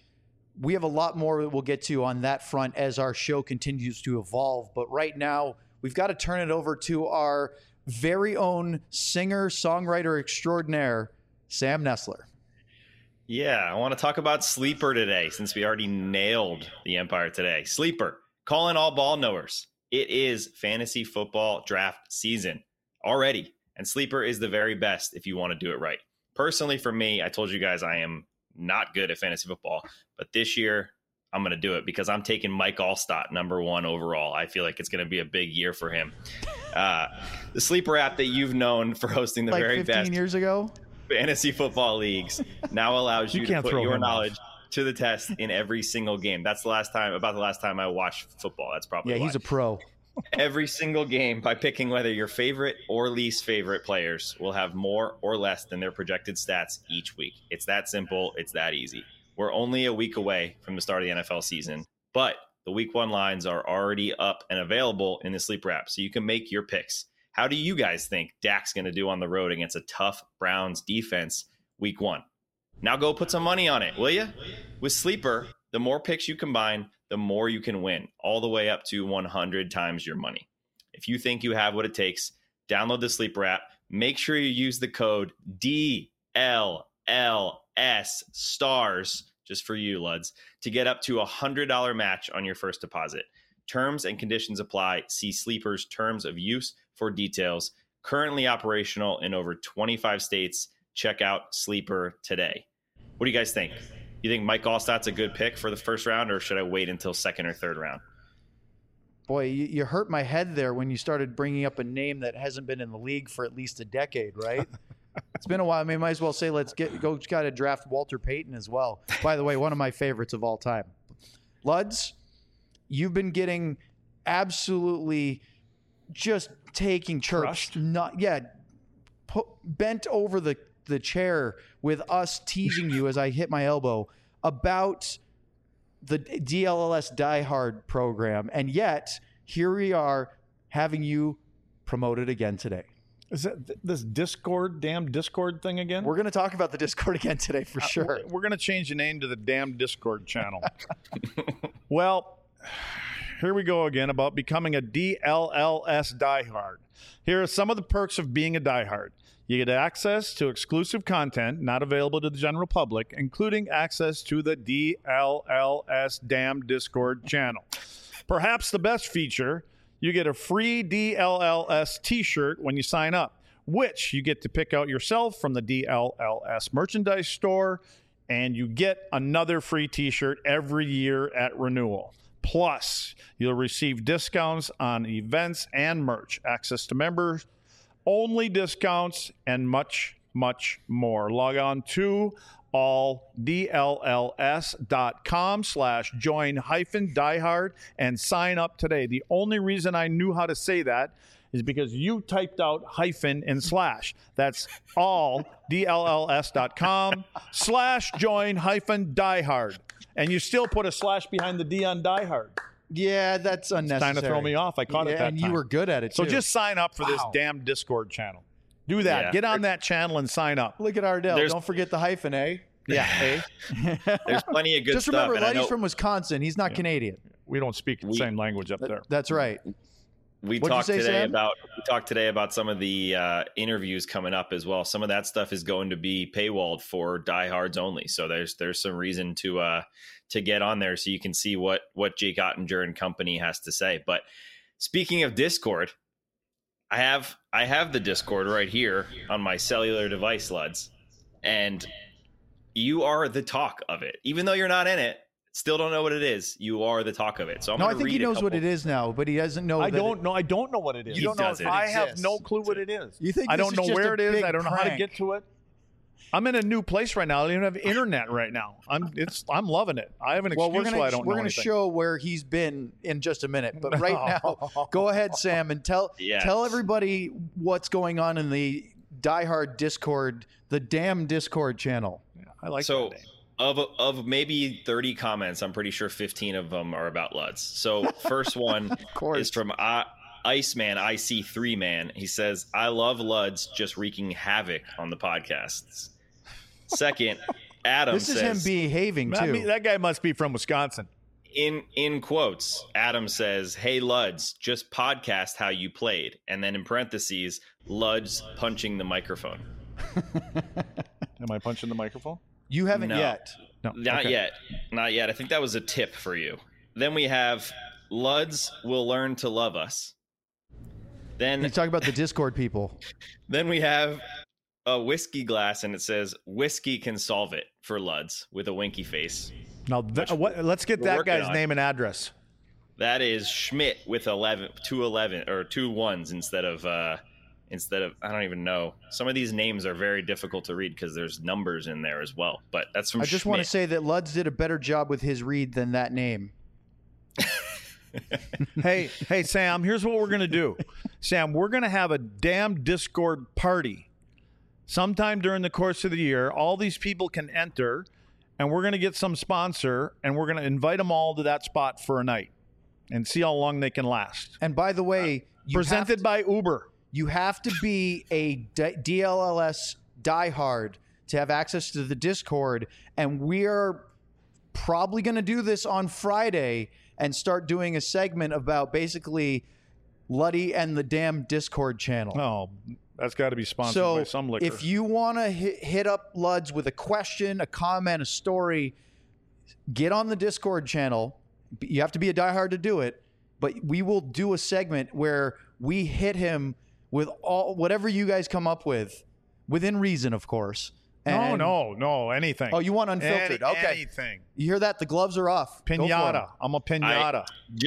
Speaker 1: We have a lot more that we'll get to on that front as our show continues to evolve, but right now we've got to turn it over to our very own singer-songwriter extraordinaire, Sam Nestler.
Speaker 2: Yeah, I want to talk about Sleeper today since we already nailed the Empire today. Sleeper, calling all ball knowers. It is fantasy football draft season already, and Sleeper is the very best if you want to do it right. Personally, for me, I told you guys I am not good at fantasy football, but this year I'm going to do it because I'm taking Mike Allstott #1 overall. I feel like it's going to be a big year for him. The Sleeper app that you've known for hosting the very best
Speaker 1: 15 years ago
Speaker 2: fantasy football leagues now allows you to put your knowledge to the test in every single game. That's the last time I watched football. That's probably
Speaker 1: Yeah,
Speaker 2: why.
Speaker 1: he's a pro.
Speaker 2: Every single game, by picking whether your favorite or least favorite players will have more or less than their projected stats each week. It's that simple. It's that easy. We're only a week away from the start of the NFL season, but the week 1 lines are already up and available in the Sleeper app, so you can make your picks. How do you guys think Dak's going to do on the road against a tough Browns defense week 1? Now go put some money on it, will you? With Sleeper, the more picks you combine, the more you can win, all the way up to 100 times your money. If you think you have what it takes, download the Sleeper app. Make sure you use the code DLLS STARS, just for you, Luds, to get up to a $100 match on your first deposit. Terms and conditions apply. See Sleeper's terms of use for details. Currently operational in over 25 states. Check out Sleeper today. What do you guys think? You think Mike Allstott's a good pick for the first round, or should I wait until second or third round?
Speaker 1: Boy, you hurt my head there when you started bringing up a name that hasn't been in the league for at least a decade, right? It's been a while. I mean, might as well say let's got to draft Walter Payton as well. By the way, one of my favorites of all time. Luds, you've been getting absolutely just taking chirps. Bent over the chair with us teasing you as I hit my elbow about the DLLS Die Hard program. And yet, here we are having you promoted again today.
Speaker 3: Is that this damn Discord thing again?
Speaker 1: We're going to talk about the Discord again today for sure.
Speaker 3: We're going to change the name to the damn Discord channel. Well, here we go again about becoming a DLLS diehard. Here are some of the perks of being a diehard. You get access to exclusive content not available to the general public, including access to the DLLS damn Discord channel. Perhaps the best feature, you get a free DLLS t-shirt when you sign up, which you get to pick out yourself from the DLLS merchandise store, and you get another free t-shirt every year at renewal. Plus, you'll receive discounts on events and merch, access to members, only discounts, and much, much more. Log on to alldlls.com/join-diehard and sign up today. The only reason I knew how to say that is because you typed out hyphen and slash. That's alldlls.com/join-diehard. And you still put a slash behind the D on diehard.
Speaker 1: Yeah, that's unnecessary.
Speaker 3: It's trying to throw me off. I caught it that time.
Speaker 1: And you were good at it,
Speaker 3: So
Speaker 1: too.
Speaker 3: just sign up for this damn Discord channel. Do that.
Speaker 2: Yeah.
Speaker 3: Get on that channel and sign up.
Speaker 1: Look at Ardell. Don't forget the hyphen, eh?
Speaker 3: Yeah.
Speaker 2: There's plenty of good
Speaker 1: Just
Speaker 2: stuff.
Speaker 1: remember,
Speaker 2: and I
Speaker 1: Letty's
Speaker 2: know
Speaker 1: from Wisconsin. He's not Canadian.
Speaker 3: We don't speak the same language up there.
Speaker 1: That's right.
Speaker 2: We
Speaker 1: What'd you
Speaker 2: talked
Speaker 1: say,
Speaker 2: today about some of the interviews coming up as well. Some of that stuff is going to be paywalled for diehards only. So there's some reason to get on there so you can see what Jake Ottinger and company has to say. But speaking of Discord, I have the Discord right here on my cellular device, Luds, and you are the talk of it. Even though you're not in it, still don't know what it is. You are the talk of it. So
Speaker 1: I think he knows what it is now, but he doesn't know.
Speaker 3: I don't know what it is.
Speaker 2: You don't know if it
Speaker 3: I have
Speaker 1: exists.
Speaker 3: no clue what it is.
Speaker 1: You think
Speaker 3: I
Speaker 1: this
Speaker 3: don't
Speaker 1: is
Speaker 3: know
Speaker 1: just
Speaker 3: where
Speaker 1: a
Speaker 3: it is.
Speaker 1: big
Speaker 3: I don't know how to
Speaker 1: prank?
Speaker 3: get to it. I'm in a new place right now. I don't even have internet right now. I'm loving it. I have an excuse why I don't know
Speaker 1: We're going to
Speaker 3: anything.
Speaker 1: show where he's been in just a minute. But right now, go ahead, Sam, and tell everybody what's going on in the Die Hard Discord, the damn Discord channel.
Speaker 3: Yeah, I like
Speaker 2: so.
Speaker 3: that name.
Speaker 2: Of maybe 30 comments, I'm pretty sure 15 of them are about Luds. So first one is from Iceman, IC3 Man. He says, I love Luds just wreaking havoc on the podcasts. Second, Adam
Speaker 1: This is him behaving, too.
Speaker 3: That guy must be from Wisconsin.
Speaker 2: In quotes, Adam says, hey, Luds, just podcast how you played. And then in parentheses, Luds punching the microphone.
Speaker 3: Am I punching the microphone?
Speaker 1: You haven't
Speaker 2: No.
Speaker 1: yet.
Speaker 3: No,
Speaker 2: Not yet. I think that was a tip for you. Then we have Luds will learn to love us. Then
Speaker 1: You talk about the Discord people.
Speaker 2: Then we have a whiskey glass, and it says whiskey can solve it for Luds with a winky face.
Speaker 3: Now, let's get
Speaker 2: we're
Speaker 3: that
Speaker 2: working
Speaker 3: guy's
Speaker 2: on.
Speaker 3: name and address.
Speaker 2: That is Schmidt with 2 1s instead of instead of, I don't even know. Some of these names are very difficult to read because there's numbers in there as well. But that's from
Speaker 1: I just want to say that Luds did a better job with his read than that name.
Speaker 3: Hey, Sam, here's what we're going to do. Sam, we're going to have a damn Discord party sometime during the course of the year. All these people can enter, and we're going to get some sponsor, and we're going to invite them all to that spot for a night and see how long they can last.
Speaker 1: And by the way,
Speaker 3: presented by Uber.
Speaker 1: You have to be a DLLS diehard to have access to the Discord, and we are probably going to do this on Friday and start doing a segment about basically Luddy and the damn Discord channel.
Speaker 3: Oh, that's got to be sponsored by some liquor.
Speaker 1: If you want to hit up Luds with a question, a comment, a story, get on the Discord channel. You have to be a diehard to do it, but we will do a segment where we hit him with whatever you guys come up with, within reason, of course. And
Speaker 3: No, anything.
Speaker 1: Oh, you want unfiltered? Okay.
Speaker 3: Anything.
Speaker 1: You hear that? The gloves are off.
Speaker 3: Pinata. I'm a pinata.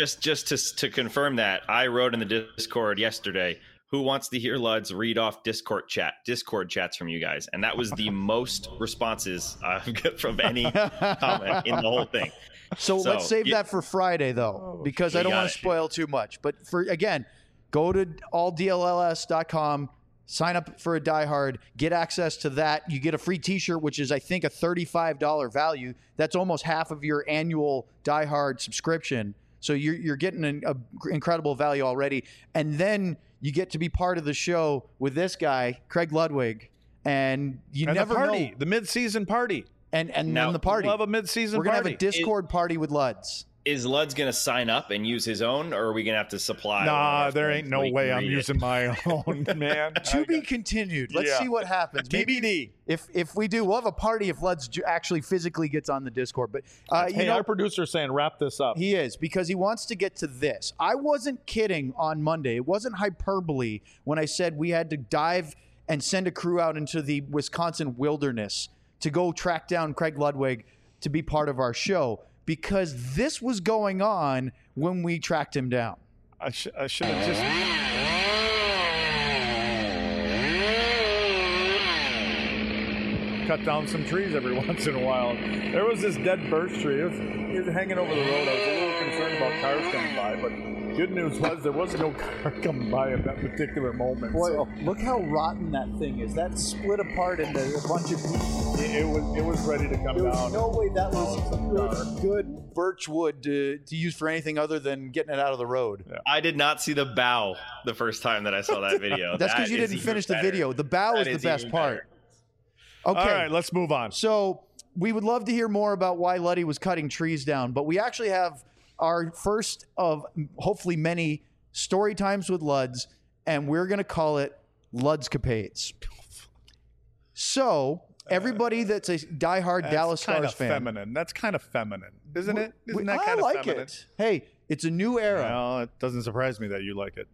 Speaker 2: Just to confirm that, I wrote in the Discord yesterday, who wants to hear Luds read off Discord chats from you guys? And that was the most responses I've got from any comment in the whole thing.
Speaker 1: So let's save that for Friday, though, because I don't want to spoil too much. But again, go to alldlls.com. Sign up for a diehard, get access to that. You get a free t-shirt, which is, I think, a $35 value. That's almost half of your annual diehard subscription. So you're getting an incredible value already. And then you get to be part of the show with this guy, Craig Ludwig. And never know.
Speaker 3: The mid-season party.
Speaker 1: And then the party.
Speaker 3: We'll have a mid-season
Speaker 1: party. We're going to have a Discord party with Luds.
Speaker 2: Is Luds going to sign up and use his own, or are we going to have to supply?
Speaker 3: Nah, there ain't no way I'm using my own, man.
Speaker 1: To be continued. Let's see what happens.
Speaker 3: TBD.
Speaker 1: If we do, we'll have a party if Luds actually physically gets on the Discord. But
Speaker 3: our producer's saying wrap this up.
Speaker 1: He is, because he wants to get to this. I wasn't kidding on Monday. It wasn't hyperbole when I said we had to dive and send a crew out into the Wisconsin wilderness to go track down Craig Ludwig to be part of our show. Because this was going on when we tracked him down.
Speaker 3: I should have just... cut down some trees every once in a while. There was this dead birch tree. It was hanging over the road. I was a little concerned about cars coming by, but good news was there wasn't no car coming by at that particular moment.
Speaker 1: Boy, look how rotten that thing is. That split apart into a bunch of pieces.
Speaker 3: It was ready to come down.
Speaker 1: There was no way that was good birch wood to use for anything other than getting it out of the road.
Speaker 2: Yeah. I did not see the bow the first time that I saw that video.
Speaker 1: That's because you didn't finish the video. The bow is the best part. Okay.
Speaker 3: All right, let's move on.
Speaker 1: So we would love to hear more about why Luddy was cutting trees down, but we actually have our first of hopefully many story times with Luds, and we're going to call it Ludscapades. So everybody that's a diehard Dallas Stars fan.
Speaker 3: Feminine. That's kind of feminine, isn't it? Isn't that kind of feminine?
Speaker 1: I like it. Hey, it's a new era.
Speaker 3: Well, it doesn't surprise me that you like it.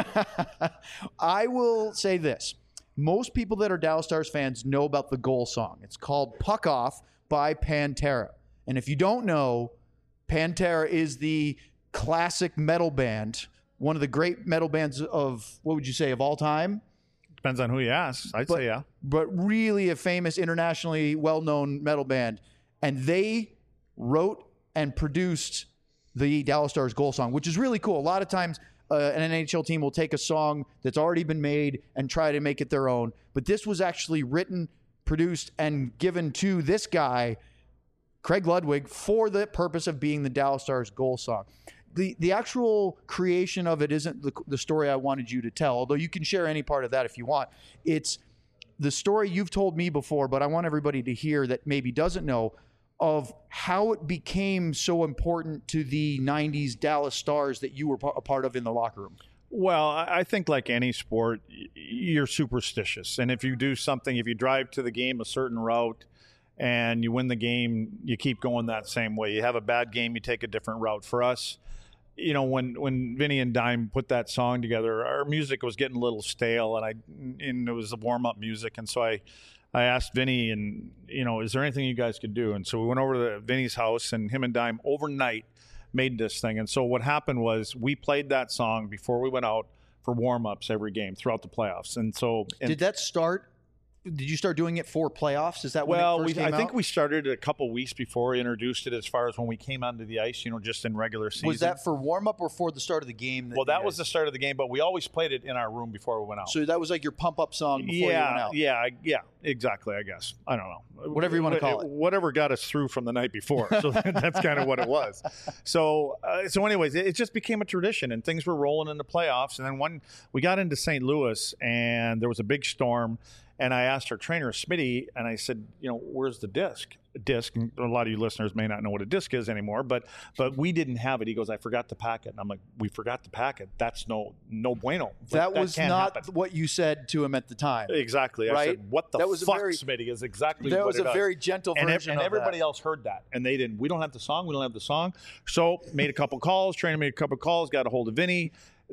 Speaker 1: I will say this. Most people that are Dallas Stars fans know about the goal song. It's called Puck Off by Pantera. And if you don't know, Pantera is the classic metal band, one of the great metal bands of, what would you say, of all time?
Speaker 3: Depends on who you ask. I'd say yeah.
Speaker 1: But really a famous, internationally well-known metal band. And they wrote and produced the Dallas Stars goal song, which is really cool. A lot of times an NHL team will take a song that's already been made and try to make it their own. But this was actually written, produced, and given to this guy, Craig Ludwig, for the purpose of being the Dallas Stars goal song. The actual creation of it isn't the story I wanted you to tell, although you can share any part of that if you want. It's the story you've told me before, but I want everybody to hear that maybe doesn't know, of how it became so important to the 90s Dallas Stars that you were a part of in the locker room.
Speaker 3: Well, I think like any sport, you're superstitious. And if you do something, if you drive to the game a certain route and you win the game, you keep going that same way. You have a bad game, you take a different route. For us, you know, when Vinny and Dime put that song together, our music was getting a little stale, and it was the warm-up music. And so I asked Vinny, and, you know, is there anything you guys could do? And so we went over to Vinny's house, and him and Dime overnight made this thing. And so what happened was we played that song before we went out for warm-ups every game throughout the playoffs. And so
Speaker 1: did that start? Did you start doing it for playoffs? Is that when it first came
Speaker 3: I think
Speaker 1: out?
Speaker 3: we started it a couple weeks before we introduced it, as far as when we came onto the ice, just in regular season.
Speaker 1: Was that for warm-up or for the start of the game?
Speaker 3: Well, that was the start of the game, but we always played it in our room before we went out.
Speaker 1: So that was like your pump-up song before you went out?
Speaker 3: Yeah, exactly, I guess. I don't know.
Speaker 1: Whatever you want to call it.
Speaker 3: Whatever got us through from the night before. So that's kind of what it was. So anyways, it just became a tradition, and things were rolling in the playoffs. And then when we got into St. Louis, and there was a big storm, and I asked our trainer, Smitty, and I said, where's the disc? And a lot of you listeners may not know what a disc is anymore, but we didn't have it. He goes, I forgot to pack it. And I'm like, we forgot to pack it. That's no bueno.
Speaker 1: That was not
Speaker 3: happen.
Speaker 1: what you said to him at the time.
Speaker 3: Exactly.
Speaker 1: Right?
Speaker 3: I said, what the fuck, Smitty, is exactly what it is.
Speaker 1: That was a very gentle version
Speaker 3: and
Speaker 1: of
Speaker 3: everybody
Speaker 1: that.
Speaker 3: else heard that, and they didn't. We don't have the song. So made a couple calls. Trainer made a couple calls. Got a hold of Vinny.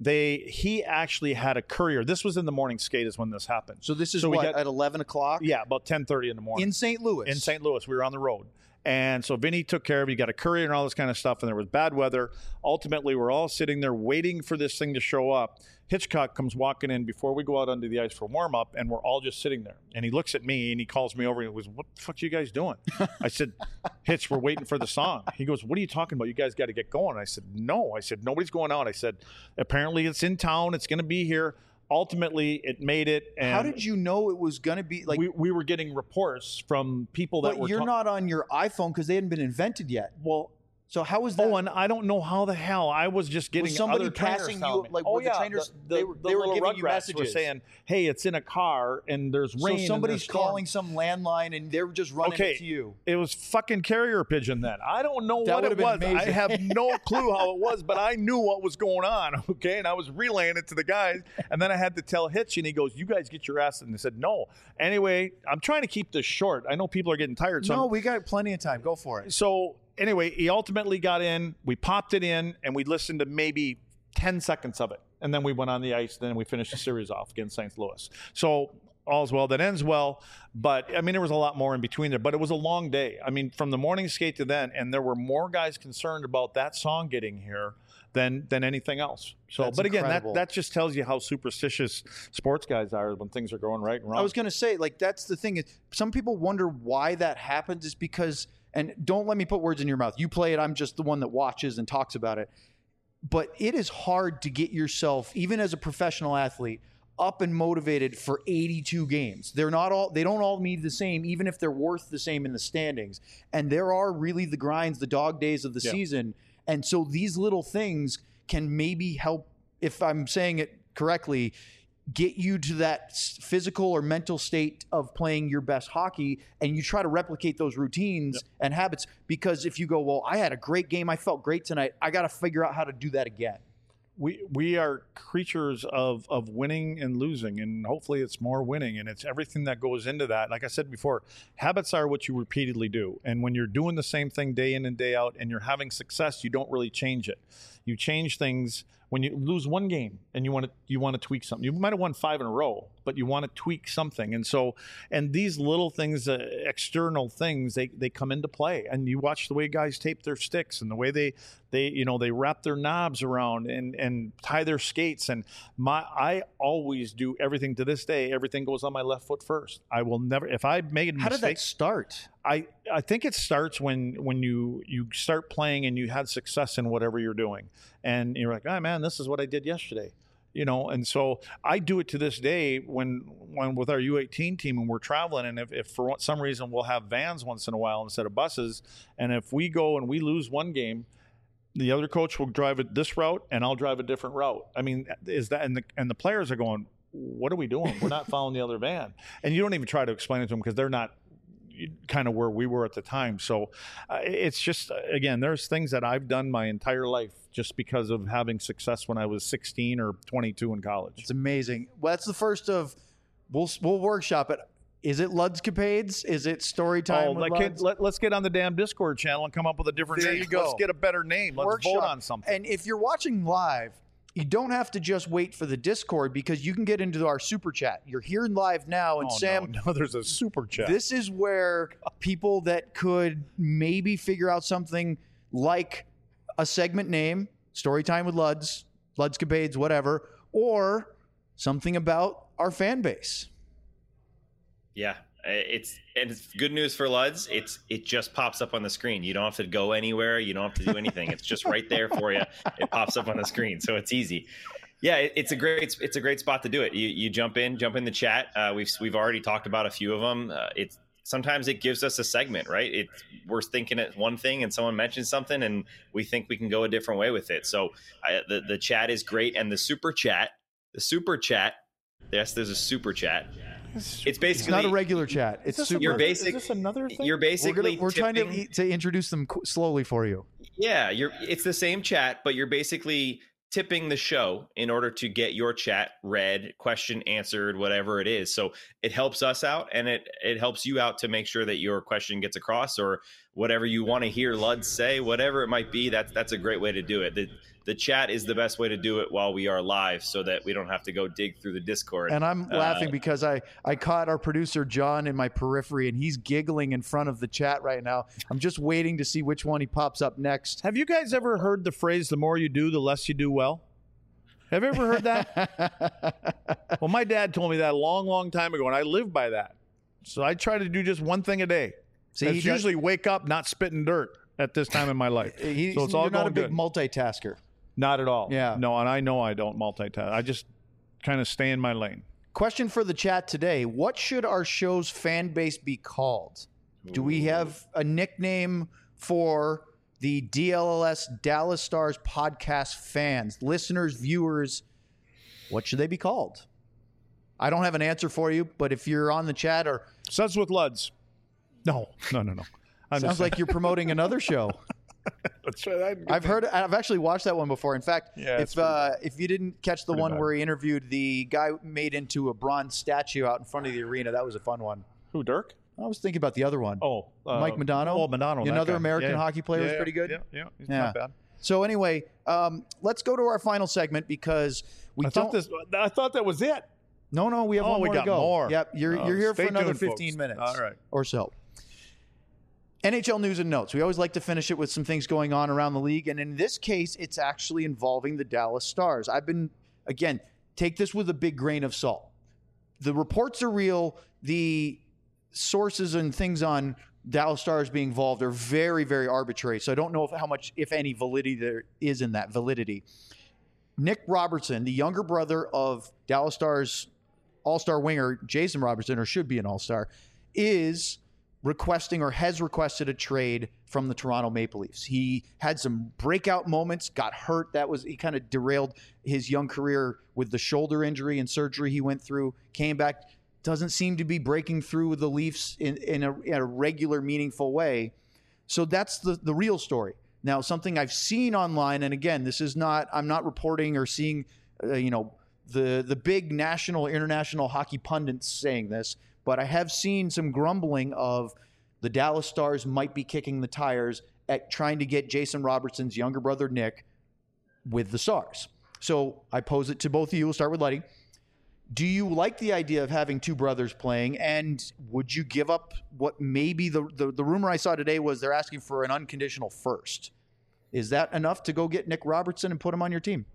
Speaker 3: He actually had a courier. This was in the morning skate is when this happened.
Speaker 1: So this is at 11 o'clock?
Speaker 3: Yeah, about 10:30 in the morning.
Speaker 1: In St. Louis?
Speaker 3: In St. Louis. We were on the road. And so Vinny took care of it. He got a courier and all this kind of stuff, and there was bad weather. Ultimately, we're all sitting there waiting for this thing to show up. Hitchcock comes walking in before we go out onto the ice for warm-up, and we're all just sitting there. And he looks at me, and he calls me over, and he goes, what the fuck are you guys doing? I said, Hitch, we're waiting for the song. He goes, what are you talking about? You guys got to get going. I said, no. I said, nobody's going out. I said, apparently it's in town. It's going to be here. Ultimately, it made it. And
Speaker 1: how did you know it was going to be? Like
Speaker 3: we were getting reports from people that were.
Speaker 1: But you're not on your iPhone because they hadn't been invented yet. Well, so how was that?
Speaker 3: Oh, and I don't know how the hell I was just getting
Speaker 1: was somebody
Speaker 3: other trainers
Speaker 1: passing
Speaker 3: telling
Speaker 1: you
Speaker 3: me.
Speaker 1: like
Speaker 3: oh
Speaker 1: were
Speaker 3: yeah,
Speaker 1: the trainers
Speaker 3: the
Speaker 1: they were
Speaker 3: little
Speaker 1: giving you
Speaker 3: Rugrats
Speaker 1: messages
Speaker 3: were saying, "Hey, it's in a car and there's rain."
Speaker 1: So somebody's
Speaker 3: and there's
Speaker 1: calling some landline and they were just running it to you.
Speaker 3: It was fucking carrier pigeon then. I don't know
Speaker 1: That
Speaker 3: what it was.
Speaker 1: amazing.
Speaker 3: I have no clue how it was, but I knew what was going on. Okay, and I was relaying it to the guys, and then I had to tell Hitch, and he goes, "You guys get your ass." And they said, "No." Anyway, I'm trying to keep this short. I know people are getting tired. So
Speaker 1: no, we got plenty of time. Go for it.
Speaker 3: So anyway, he ultimately got in. We popped it in, and we listened to maybe 10 seconds of it. And then we went on the ice. Then we finished the series off against St. Louis. So all's well that ends well. But, I mean, there was a lot more in between there. But it was a long day. I mean, from the morning skate to then, and there were more guys concerned about that song getting here than anything else. So,
Speaker 1: That's
Speaker 3: but again,
Speaker 1: incredible.
Speaker 3: that just tells you how superstitious sports guys are when things are going right and wrong.
Speaker 1: I was going to say, like, that's the thing. Some people wonder why that happens is because, and don't let me put words in your mouth. You play it. I'm just the one that watches and talks about it. But it is hard to get yourself, even as a professional athlete, up and motivated for 82 games. They don't all need the same, even if they're worth the same in the standings. And there are really the grinds, the dog days of the season. And so these little things can maybe help, if I'm saying it correctly, get you to that physical or mental state of playing your best hockey, and you try to replicate those routines and habits. Because if you go, well, I had a great game, I felt great tonight, I got to figure out how to do that again.
Speaker 3: We are creatures of winning and losing, and hopefully it's more winning, and it's everything that goes into that. Like I said before, habits are what you repeatedly do, and when you're doing the same thing day in and day out and you're having success, you don't really change it. You change things when you lose one game and you want to tweak something. You might have won 5 in a row, but you want to tweak something. And these little things, external things, they come into play. And you watch the way guys tape their sticks and the way they wrap their knobs around and tie their skates. And I always do everything to this day. Everything goes on my left foot first. I will never, if I make a mistake.
Speaker 1: How did that start?
Speaker 3: I think it starts when you start playing and you had success in whatever you're doing, and you're like, oh man, this is what I did yesterday, and so I do it to this day when with our U18 team and we're traveling, and if for some reason we'll have vans once in a while instead of buses, and if we go and we lose one game, the other coach will drive it this route and I'll drive a different route. I mean, is that and the players are going, what are we doing? We're not following the other van, and you don't even try to explain it to them because they're not kind of where we were at the time. So it's just, again, there's things that I've done my entire life just because of having success when I was 16 or 22 in college.
Speaker 1: It's amazing. Well, that's the first of, we'll workshop it. Is it Ludscapades? Is it Storytime with Luds?
Speaker 3: Let's get on the damn Discord channel and come up with a different
Speaker 1: There
Speaker 3: name.
Speaker 1: you go.
Speaker 3: Let's get a better name. Let's
Speaker 1: Workshop.
Speaker 3: vote on something.
Speaker 1: And if you're watching live, you don't have to just wait for the Discord, because you can get into our super chat. You're here live now, and Sam,
Speaker 3: no, there's a super chat.
Speaker 1: This is where people that could maybe figure out something like a segment name, Storytime with Luds, Ludscapades, whatever, or something about our fan base.
Speaker 2: Yeah, it's good news for Luds. It just pops up on the screen. You don't have to go anywhere. You don't have to do anything. It's just right there for you. It pops up on the screen, so it's easy. Yeah, it's a great spot to do it. You jump in the chat. We've already talked about a few of them. Sometimes it gives us a segment, right? We're thinking at one thing and someone mentions something and we think we can go a different way with it. So the chat is great, and the super chat. Yes, there's a super chat. It's basically
Speaker 1: it's not a regular chat. It's super.
Speaker 3: Is this another thing?
Speaker 2: You're basically
Speaker 1: we're trying to introduce them slowly for you.
Speaker 2: Yeah, it's the same chat, but you're basically tipping the show in order to get your chat read, question answered, whatever it is. So it helps us out, and it helps you out to make sure that your question gets across, or whatever you want to hear Luds say, whatever it might be. That's a great way to do it. The chat is the best way to do it while we are live, so that we don't have to go dig through the Discord.
Speaker 1: And I'm laughing because I caught our producer John in my periphery, and he's giggling in front of the chat right now. I'm just waiting to see which one he pops up next.
Speaker 3: Have you guys ever heard the phrase, the more you do, the less you do well? Have you ever heard that? Well, my dad told me that a long, long time ago, and I live by that. So I try to do just one thing a day. See, it's usually wake up, not spit in dirt at this time in my life. So it's all
Speaker 1: you're not a big
Speaker 3: good.
Speaker 1: Multitasker.
Speaker 3: Not at all.
Speaker 1: Yeah.
Speaker 3: No, and I know I don't multitask. I just kind of stay in my lane.
Speaker 1: Question for the chat today. What should our show's fan base be called? Do we have a nickname for the DLLS Dallas Stars podcast fans, listeners, viewers? What should they be called? I don't have an answer for you, but if you're on the chat or...
Speaker 3: Suds with Luds. No.
Speaker 1: Sounds like you're promoting another show.
Speaker 3: That's right.
Speaker 1: I've actually watched that one before. In fact, if you didn't catch the one
Speaker 3: bad.
Speaker 1: where he interviewed the guy made into a bronze statue out in front of the arena, that was a fun one.
Speaker 3: Who, Dirk?
Speaker 1: I was thinking about the other one.
Speaker 3: Oh,
Speaker 1: Mike Modano.
Speaker 3: Oh, Modano.
Speaker 1: Another American hockey player was pretty good.
Speaker 3: Yeah. He's not bad.
Speaker 1: So anyway, let's go to our final segment because I thought
Speaker 3: that was it.
Speaker 1: No, we have one more to go.
Speaker 3: More.
Speaker 1: Yep, you're here for another 15
Speaker 3: folks.
Speaker 1: minutes.
Speaker 3: All right.
Speaker 1: Or so. NHL news and notes. We always like to finish it with some things going on around the league. And in this case, it's actually involving the Dallas Stars. Again, take this with a big grain of salt. The reports are real. The sources and things on Dallas Stars being involved are very, very arbitrary. So I don't know how much, if any, validity there is in that validity. Nick Robertson, the younger brother of Dallas Stars all-star winger Jason Robertson, or should be an all-star, is requesting or has requested a trade from the Toronto Maple Leafs. He had some breakout moments, got hurt. He kind of derailed his young career with the shoulder injury and surgery he went through, came back, doesn't seem to be breaking through with the Leafs in a regular, meaningful way. So that's the real story. Now, something I've seen online, and again, I'm not reporting or seeing, the big national, international hockey pundits saying this, but I have seen some grumbling of the Dallas Stars might be kicking the tires at trying to get Jason Robertson's younger brother, Nick, with the Stars. So I pose it to both of you. We'll start with Letty. Do you like the idea of having two brothers playing, and would you give up what maybe the rumor I saw today was they're asking for an unconditional first? Is that enough to go get Nick Robertson and put him on your team?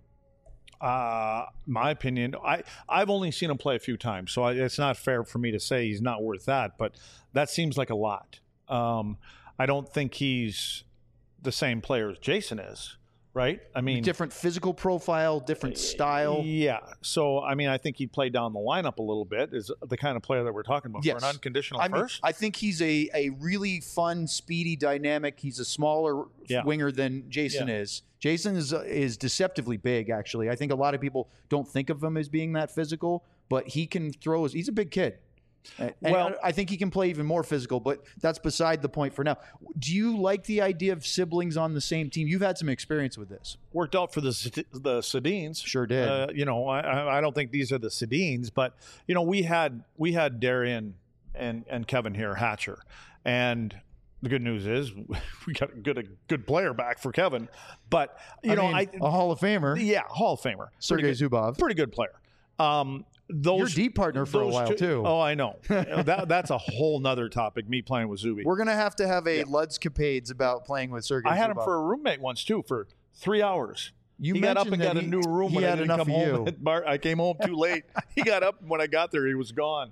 Speaker 3: My opinion, I've only seen him play a few times, so it's not fair for me to say he's not worth that, but that seems like a lot. I don't think he's the same player as Jason is, right? I mean,
Speaker 1: different physical profile, different style.
Speaker 3: Yeah. So, I mean, I think he'd play down the lineup a little bit, is the kind of player that we're talking about.
Speaker 1: Yes.
Speaker 3: For an unconditional first.
Speaker 1: I think he's a really fun, speedy, dynamic. He's a smaller winger than Jason is. Jason is deceptively big, actually. I think a lot of people don't think of him as being that physical, but he can throw. He's a big kid. And I think he can play even more physical, but that's beside the point for now. Do you like the idea of siblings on the same team? You've had some experience with this.
Speaker 3: Worked out for the Sedins.
Speaker 1: Sure did.
Speaker 3: I don't think these are the Sedins, but we had Darian and Kevin here, Hatcher, and the good news is we got a good player back for Kevin, but a
Speaker 1: Hall of Famer.
Speaker 3: Yeah, Hall of Famer.
Speaker 1: Sergei Zubov.
Speaker 3: Pretty good player.
Speaker 1: Your deep partner for a while too.
Speaker 3: Oh, I know. That's a whole nother topic. Me playing with Zuby.
Speaker 1: We're gonna have to have a Luds Capades about playing with Sergei.
Speaker 3: I had
Speaker 1: Zubov.
Speaker 3: him for a roommate once too for 3 hours. He got up and got a new room when I didn't come home. I came home too late. He got up when I got there. He was gone.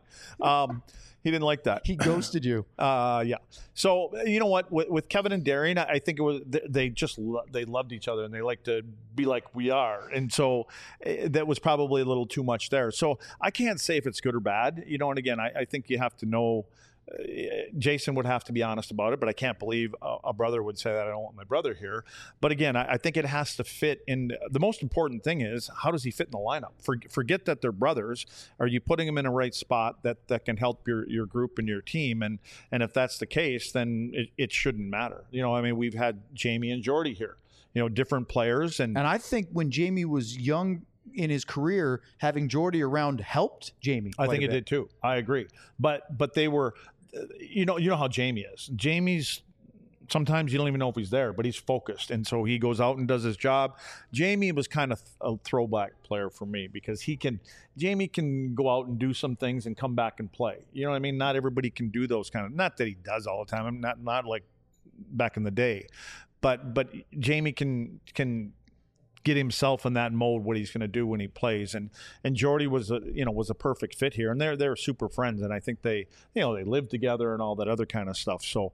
Speaker 3: He didn't like that.
Speaker 1: He ghosted you.
Speaker 3: Yeah. So you know what? With Kevin and Darian, I think it was they loved each other and they like to be like we are, and so that was probably a little too much there. So I can't say if it's good or bad. You know, and again, I think you have to know. Jason would have to be honest about it, but I can't believe a brother would say that I don't want my brother here. But again, I think it has to fit in. The most important thing is, how does he fit in the lineup? Forget that they're brothers. Are you putting him in a right spot that can help your group and your team? And if that's the case, then it shouldn't matter. You know, I mean, we've had Jamie and Jordy here, you know, different players. And
Speaker 1: I think when Jamie was young in his career, having Jordy around helped Jamie.
Speaker 3: I think it did too. I agree. But they were, you know how Jamie is. Jamie's sometimes you don't even know if he's there, but he's focused, and so he goes out and does his job. Jamie was kind of a throwback player for me because Jamie can go out and do some things and come back and play. You know what I mean? Not everybody can do those kind of. Not that he does all the time. I'm not like back in the day, but Jamie can get himself in that mode, what he's going to do when he plays, and Jordy was a perfect fit here, and they're super friends, and I think they live together and all that other kind of stuff. So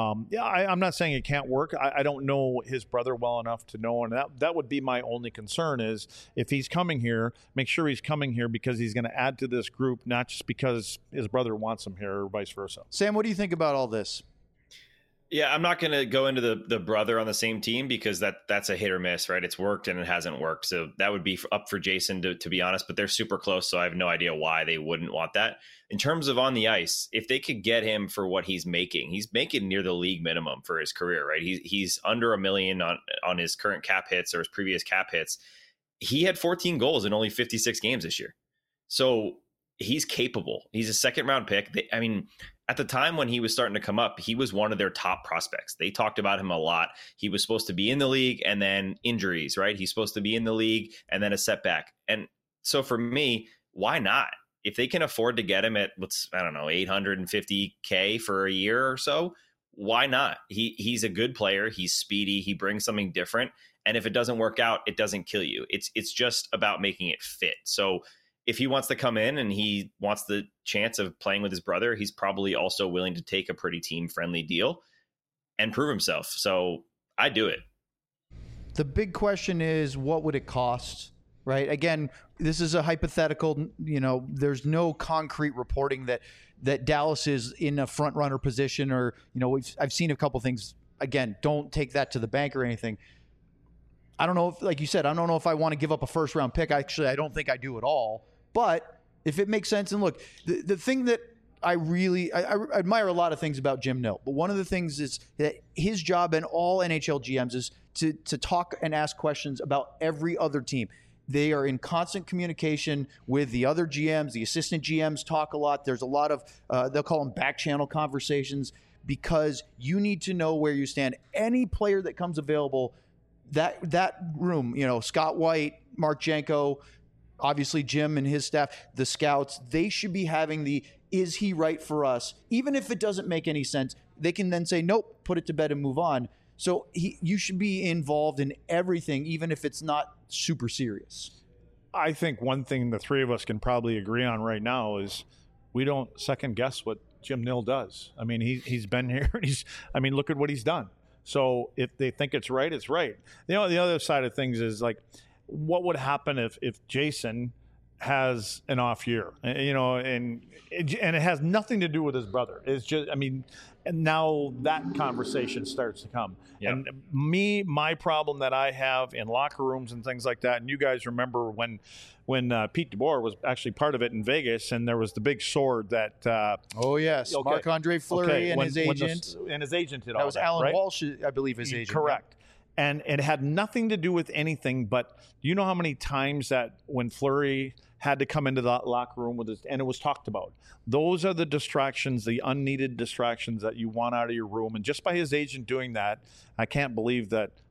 Speaker 3: I'm not saying it can't work. I don't know his brother well enough to know, and that would be my only concern is if he's coming here, make sure he's coming here because he's going to add to this group, not just because his brother wants him here or vice versa.
Speaker 1: Sam, what do you think about all this?
Speaker 2: Yeah, I'm not going to go into the brother on the same team because that's a hit or miss, right? It's worked and it hasn't worked. So that would be up for Jason to be honest, but they're super close. So I have no idea why they wouldn't want that. In terms of on the ice, if they could get him for what he's making near the league minimum for his career, right? He's under $1 million on his current cap hits or his previous cap hits. He had 14 goals in only 56 games this year. So he's capable. He's a second round pick. At the time when he was starting to come up, he was one of their top prospects. They talked about him a lot. He was supposed to be in the league and then injuries, right? He's supposed to be in the league and then a setback. And so for me, why not? If they can afford to get him at, $850K for a year or so, why not? He's a good player. He's speedy. He brings something different. And if it doesn't work out, it doesn't kill you. It's just about making it fit. So if he wants to come in and he wants the chance of playing with his brother, he's probably also willing to take a pretty team-friendly deal and prove himself. So I do it.
Speaker 1: The big question is, what would it cost, right? Again, this is a hypothetical. You know, there's no concrete reporting that Dallas is in a front-runner position or, you know, I've seen a couple things. Again, don't take that to the bank or anything. I don't know if, like you said, I don't know if I want to give up a first-round pick. Actually, I don't think I do at all. But if it makes sense, and look, the thing that I admire a lot of things about Jim Nill, but one of the things is that his job and all NHL GMs is to talk and ask questions about every other team. They are in constant communication with the other GMs. The assistant GMs talk a lot. There's a lot of, they'll call them back channel conversations because you need to know where you stand. Any player that comes available, that room, you know, Scott White, Mark Janko, obviously Jim and his staff, the scouts, they should be having is he right for us? Even if it doesn't make any sense, they can then say, nope, put it to bed and move on. So you should be involved in everything, even if it's not super serious.
Speaker 3: I think one thing the three of us can probably agree on right now is we don't second guess what Jim Nill does. I mean, he's been here. Look at what he's done. So if they think it's right, it's right. You know, the other side of things is like, what would happen if Jason has an off year, you know, and it has nothing to do with his brother. It's just, and now that conversation starts to come. Yep. And my problem that I have in locker rooms and things like that, and you guys remember when Pete DeBoer was actually part of it in Vegas, and there was the big sword that.
Speaker 1: Oh yes, okay. Marc-Andre Fleury and his agent.
Speaker 3: And his agent did all
Speaker 1: that. Was Alan
Speaker 3: right?
Speaker 1: Walsh, I believe, his agent.
Speaker 3: Correct. And it had nothing to do with anything, but do you know how many times that when Fleury had to come into that locker room and it was talked about? Those are the distractions, the unneeded distractions that you want out of your room. And just by his agent doing that, I can't believe that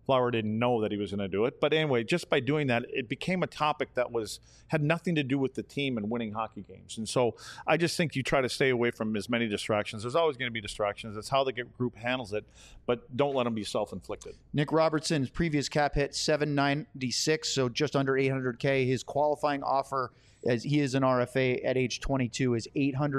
Speaker 3: Flower didn't know that he was going to do it. But anyway, just by doing that, it became a topic that had nothing to do with the team and winning hockey games. And so I just think you try to stay away from as many distractions. There's always going to be distractions. That's how the group handles it, but don't let them be self-inflicted.
Speaker 1: Nick Robertson's previous cap hit $796, so just under $800K. His qualifying offer, as he is an RFA at age 22, is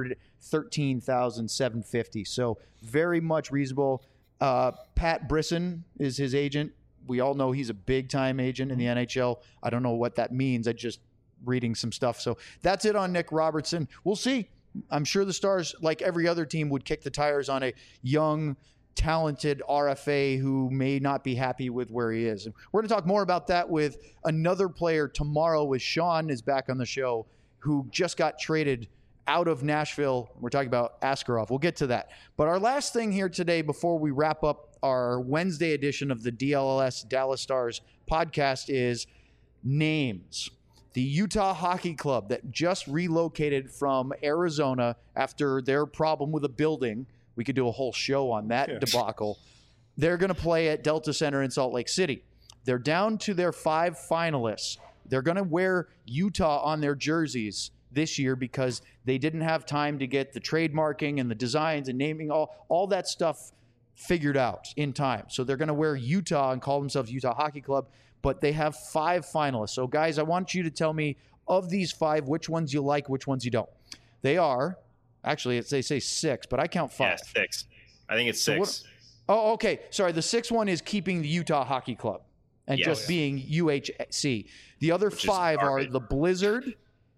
Speaker 1: $813,750. So very much reasonable. Pat Brisson is his agent. We all know he's a big-time agent in the NHL. I don't know what that means. I just reading some stuff. So that's it on Nick Robertson. We'll see. I'm sure the Stars, like every other team, would kick the tires on a young, talented RFA who may not be happy with where he is. And we're going to talk more about that with another player tomorrow, with Sean is back on the show, who just got traded out of Nashville. We're talking about Askarov. We'll get to that. But our last thing here today, before we wrap up our Wednesday edition of the DLS Dallas Stars podcast, is names. The Utah Hockey Club that just relocated from Arizona after their problem with a building. We could do a whole show on that debacle. They're going to play at Delta Center in Salt Lake City. They're down to their 5 finalists. They're going to wear Utah on their jerseys this year because they didn't have time to get the trademarking and the designs and naming, all that stuff figured out in time. So they're going to wear Utah and call themselves Utah Hockey Club, but they have 5 finalists. So guys, I want you to tell me, of these 5, which ones you like, which ones you don't. They are, actually, they say 6, but I count 5.
Speaker 2: Yeah, 6. I think it's 6.
Speaker 1: Oh, okay. Sorry, the 6th one is keeping the Utah Hockey Club and just being UHC. The other 5 are the Blizzard,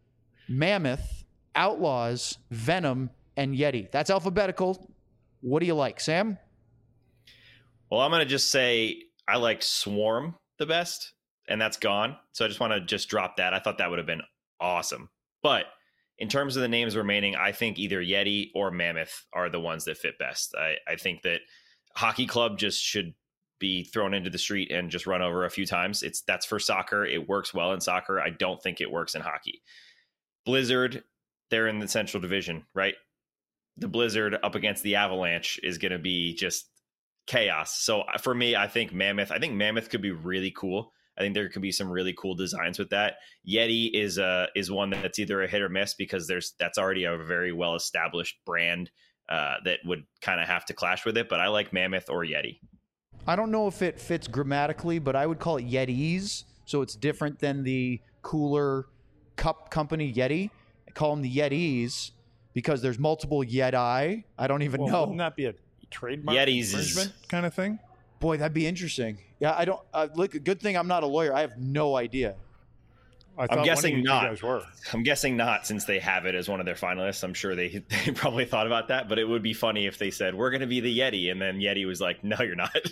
Speaker 1: Mammoth, Outlaws, Venom, and Yeti. That's alphabetical. What do you like, Sam?
Speaker 2: Well, I'm going to just say I like Swarm the best, and that's gone. So I just want to just drop that. I thought that would have been awesome. But in terms of the names remaining, I think either Yeti or Mammoth are the ones that fit best. I think that Hockey Club just should be thrown into the street and just run over a few times. That's for soccer. It works well in soccer. I don't think it works in hockey. Blizzard, they're in the Central Division, right? The Blizzard up against the Avalanche is going to be just chaos. So for me, I think Mammoth could be really cool. I think there could be some really cool designs with that. Yeti is one that's either a hit or miss because that's already a very well established brand that would kind of have to clash with it. But I like Mammoth or Yeti.
Speaker 1: I don't know if it fits grammatically, but I would call it Yetis. So it's different than the cooler cup company Yeti. I call them the Yetis because there's multiple Yeti. I don't even know.
Speaker 3: Wouldn't that be a trademark
Speaker 2: Yetis
Speaker 3: infringement kind of thing?
Speaker 1: Boy, that'd be interesting. Yeah, I don't look. Good thing I'm not a lawyer. I have no idea.
Speaker 2: I'm guessing not. I'm guessing not, since they have it as one of their finalists. I'm sure they probably thought about that, but it would be funny if they said, we're going to be the Yeti, and then Yeti was like, no, you're not.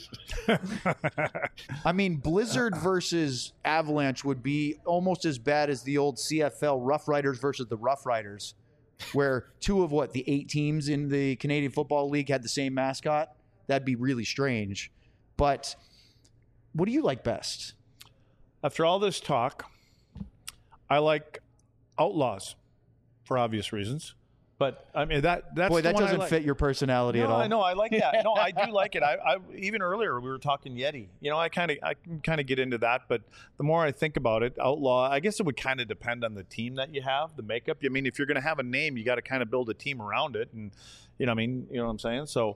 Speaker 1: I mean, Blizzard versus Avalanche would be almost as bad as the old CFL Rough Riders versus the Rough Riders, where 2 of the 8 teams in the Canadian Football League had the same mascot. That'd be really strange. But what do you like best?
Speaker 3: After all this talk, I like Outlaws for obvious reasons, but I mean that's
Speaker 1: boy, that doesn't fit your personality at all.
Speaker 3: I know, I like that. No, I do like it. I even earlier we were talking Yeti. I can kind of get into that, but the more I think about it, Outlaw, I guess it would kind of depend on the team that you have, the makeup. I mean, if you're going to have a name, you got to kind of build a team around it, and you know what I'm saying. So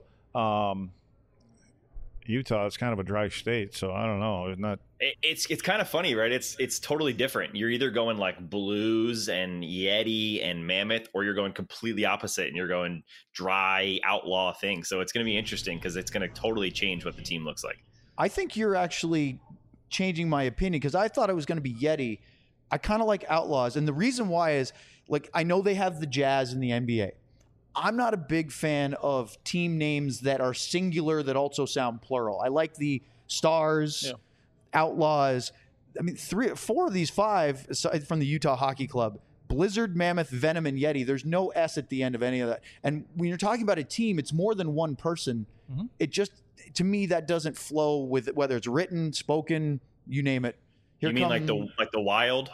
Speaker 3: Utah is kind of a dry state, so I don't know. It's not.
Speaker 2: It's kind of funny, right? It's totally different. You're either going like Blues and Yeti and Mammoth, or you're going completely opposite and you're going dry outlaw thing. So it's going to be interesting because it's going to totally change what the team looks like.
Speaker 1: I think you're actually changing my opinion because I thought it was going to be Yeti. I kind of like Outlaws, and the reason why is I know they have the Jazz in the NBA. I'm not a big fan of team names that are singular that also sound plural. I like the Stars, Outlaws. I mean, 4 of these 5 from the Utah Hockey Club: Blizzard, Mammoth, Venom, and Yeti. There's no S at the end of any of that. And when you're talking about a team, it's more than one person. Mm-hmm. It just, to me, that doesn't flow with it, whether it's written, spoken, you name it.
Speaker 2: You mean like the Wild?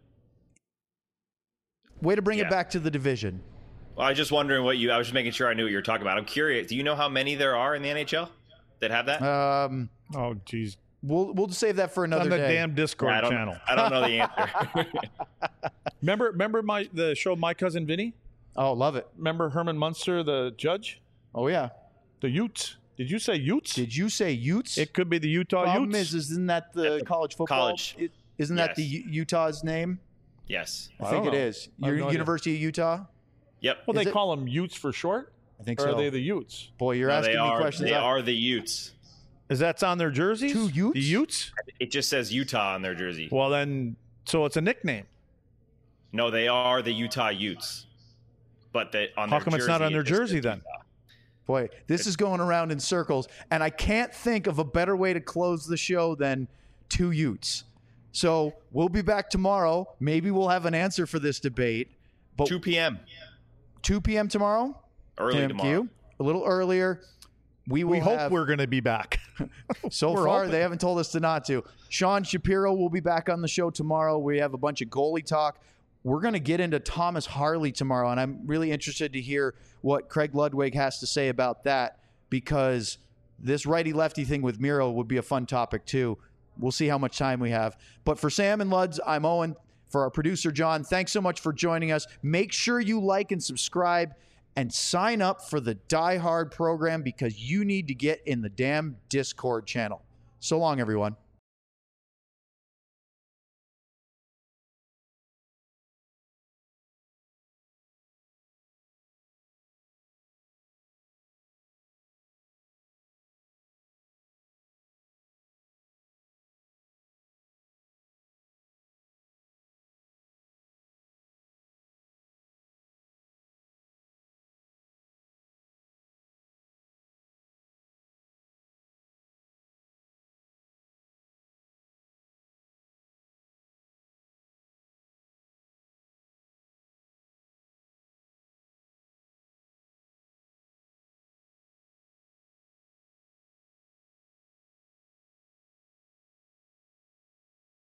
Speaker 1: Way to bring it back to the division.
Speaker 2: Well, I was just wondering I was just making sure I knew what you were talking about. I'm curious. Do you know how many there are in the NHL that have that?
Speaker 3: Oh, geez.
Speaker 1: We'll just save that for another
Speaker 3: on the
Speaker 1: day.
Speaker 3: damn Discord
Speaker 2: I
Speaker 3: channel.
Speaker 2: don't know the answer.
Speaker 3: Remember the show My Cousin Vinny?
Speaker 1: Oh, love it.
Speaker 3: Remember Herman Munster, the judge?
Speaker 1: Oh yeah.
Speaker 3: The Utes. Did you say Utes?
Speaker 1: Did you say Utes?
Speaker 3: It could be the Utah
Speaker 1: Problem
Speaker 3: Utes.
Speaker 1: isn't that the college football?
Speaker 2: college.
Speaker 1: Isn't that
Speaker 2: Yes.
Speaker 1: the Utah's name?
Speaker 2: Yes.
Speaker 1: I
Speaker 3: I
Speaker 1: think
Speaker 3: don't
Speaker 1: it
Speaker 3: know.
Speaker 1: is.
Speaker 3: I have no idea.
Speaker 1: University of Utah.
Speaker 2: Yep.
Speaker 3: Well,
Speaker 1: Is
Speaker 3: they
Speaker 1: it?
Speaker 3: call them Utes for short?
Speaker 1: I think
Speaker 3: Or
Speaker 1: so.
Speaker 3: are they the Utes?
Speaker 1: Boy, you're
Speaker 2: No,
Speaker 1: asking
Speaker 2: they
Speaker 1: me
Speaker 2: are.
Speaker 1: questions.
Speaker 2: They are the Utes.
Speaker 3: Is that on their jerseys?
Speaker 1: Two Utes?
Speaker 3: The Utes?
Speaker 2: It just says Utah on their jersey.
Speaker 3: Well, then, so it's a nickname.
Speaker 2: No, they are the Utah Utes. But on
Speaker 3: How
Speaker 2: their
Speaker 3: come it's not
Speaker 2: jersey,
Speaker 3: on their
Speaker 2: it just
Speaker 3: jersey
Speaker 2: says
Speaker 3: then?
Speaker 2: Utah.
Speaker 1: Boy, this is going around in circles, and I can't think of a better way to close the show than two Utes. So we'll be back tomorrow. Maybe we'll have an answer for this debate. But
Speaker 2: 2 p.m.
Speaker 1: 2 p.m. tomorrow?
Speaker 2: early
Speaker 1: Tim
Speaker 2: tomorrow.
Speaker 1: Q, a little earlier. We
Speaker 3: hope
Speaker 1: have,
Speaker 3: we're going to be back.
Speaker 1: so
Speaker 3: we're
Speaker 1: far,
Speaker 3: hoping.
Speaker 1: they haven't told us to not to. Sean Shapiro will be back on the show tomorrow. We have a bunch of goalie talk. We're going to get into Thomas Harley tomorrow, and I'm really interested to hear what Craig Ludwig has to say about that, because this righty-lefty thing with Miro would be a fun topic too. We'll see how much time we have. But for Sam and Luds, I'm Owen. For our producer, John, thanks so much for joining us. Make sure you like and subscribe and sign up for the Die Hard program, because you need to get in the damn Discord channel. So long, everyone.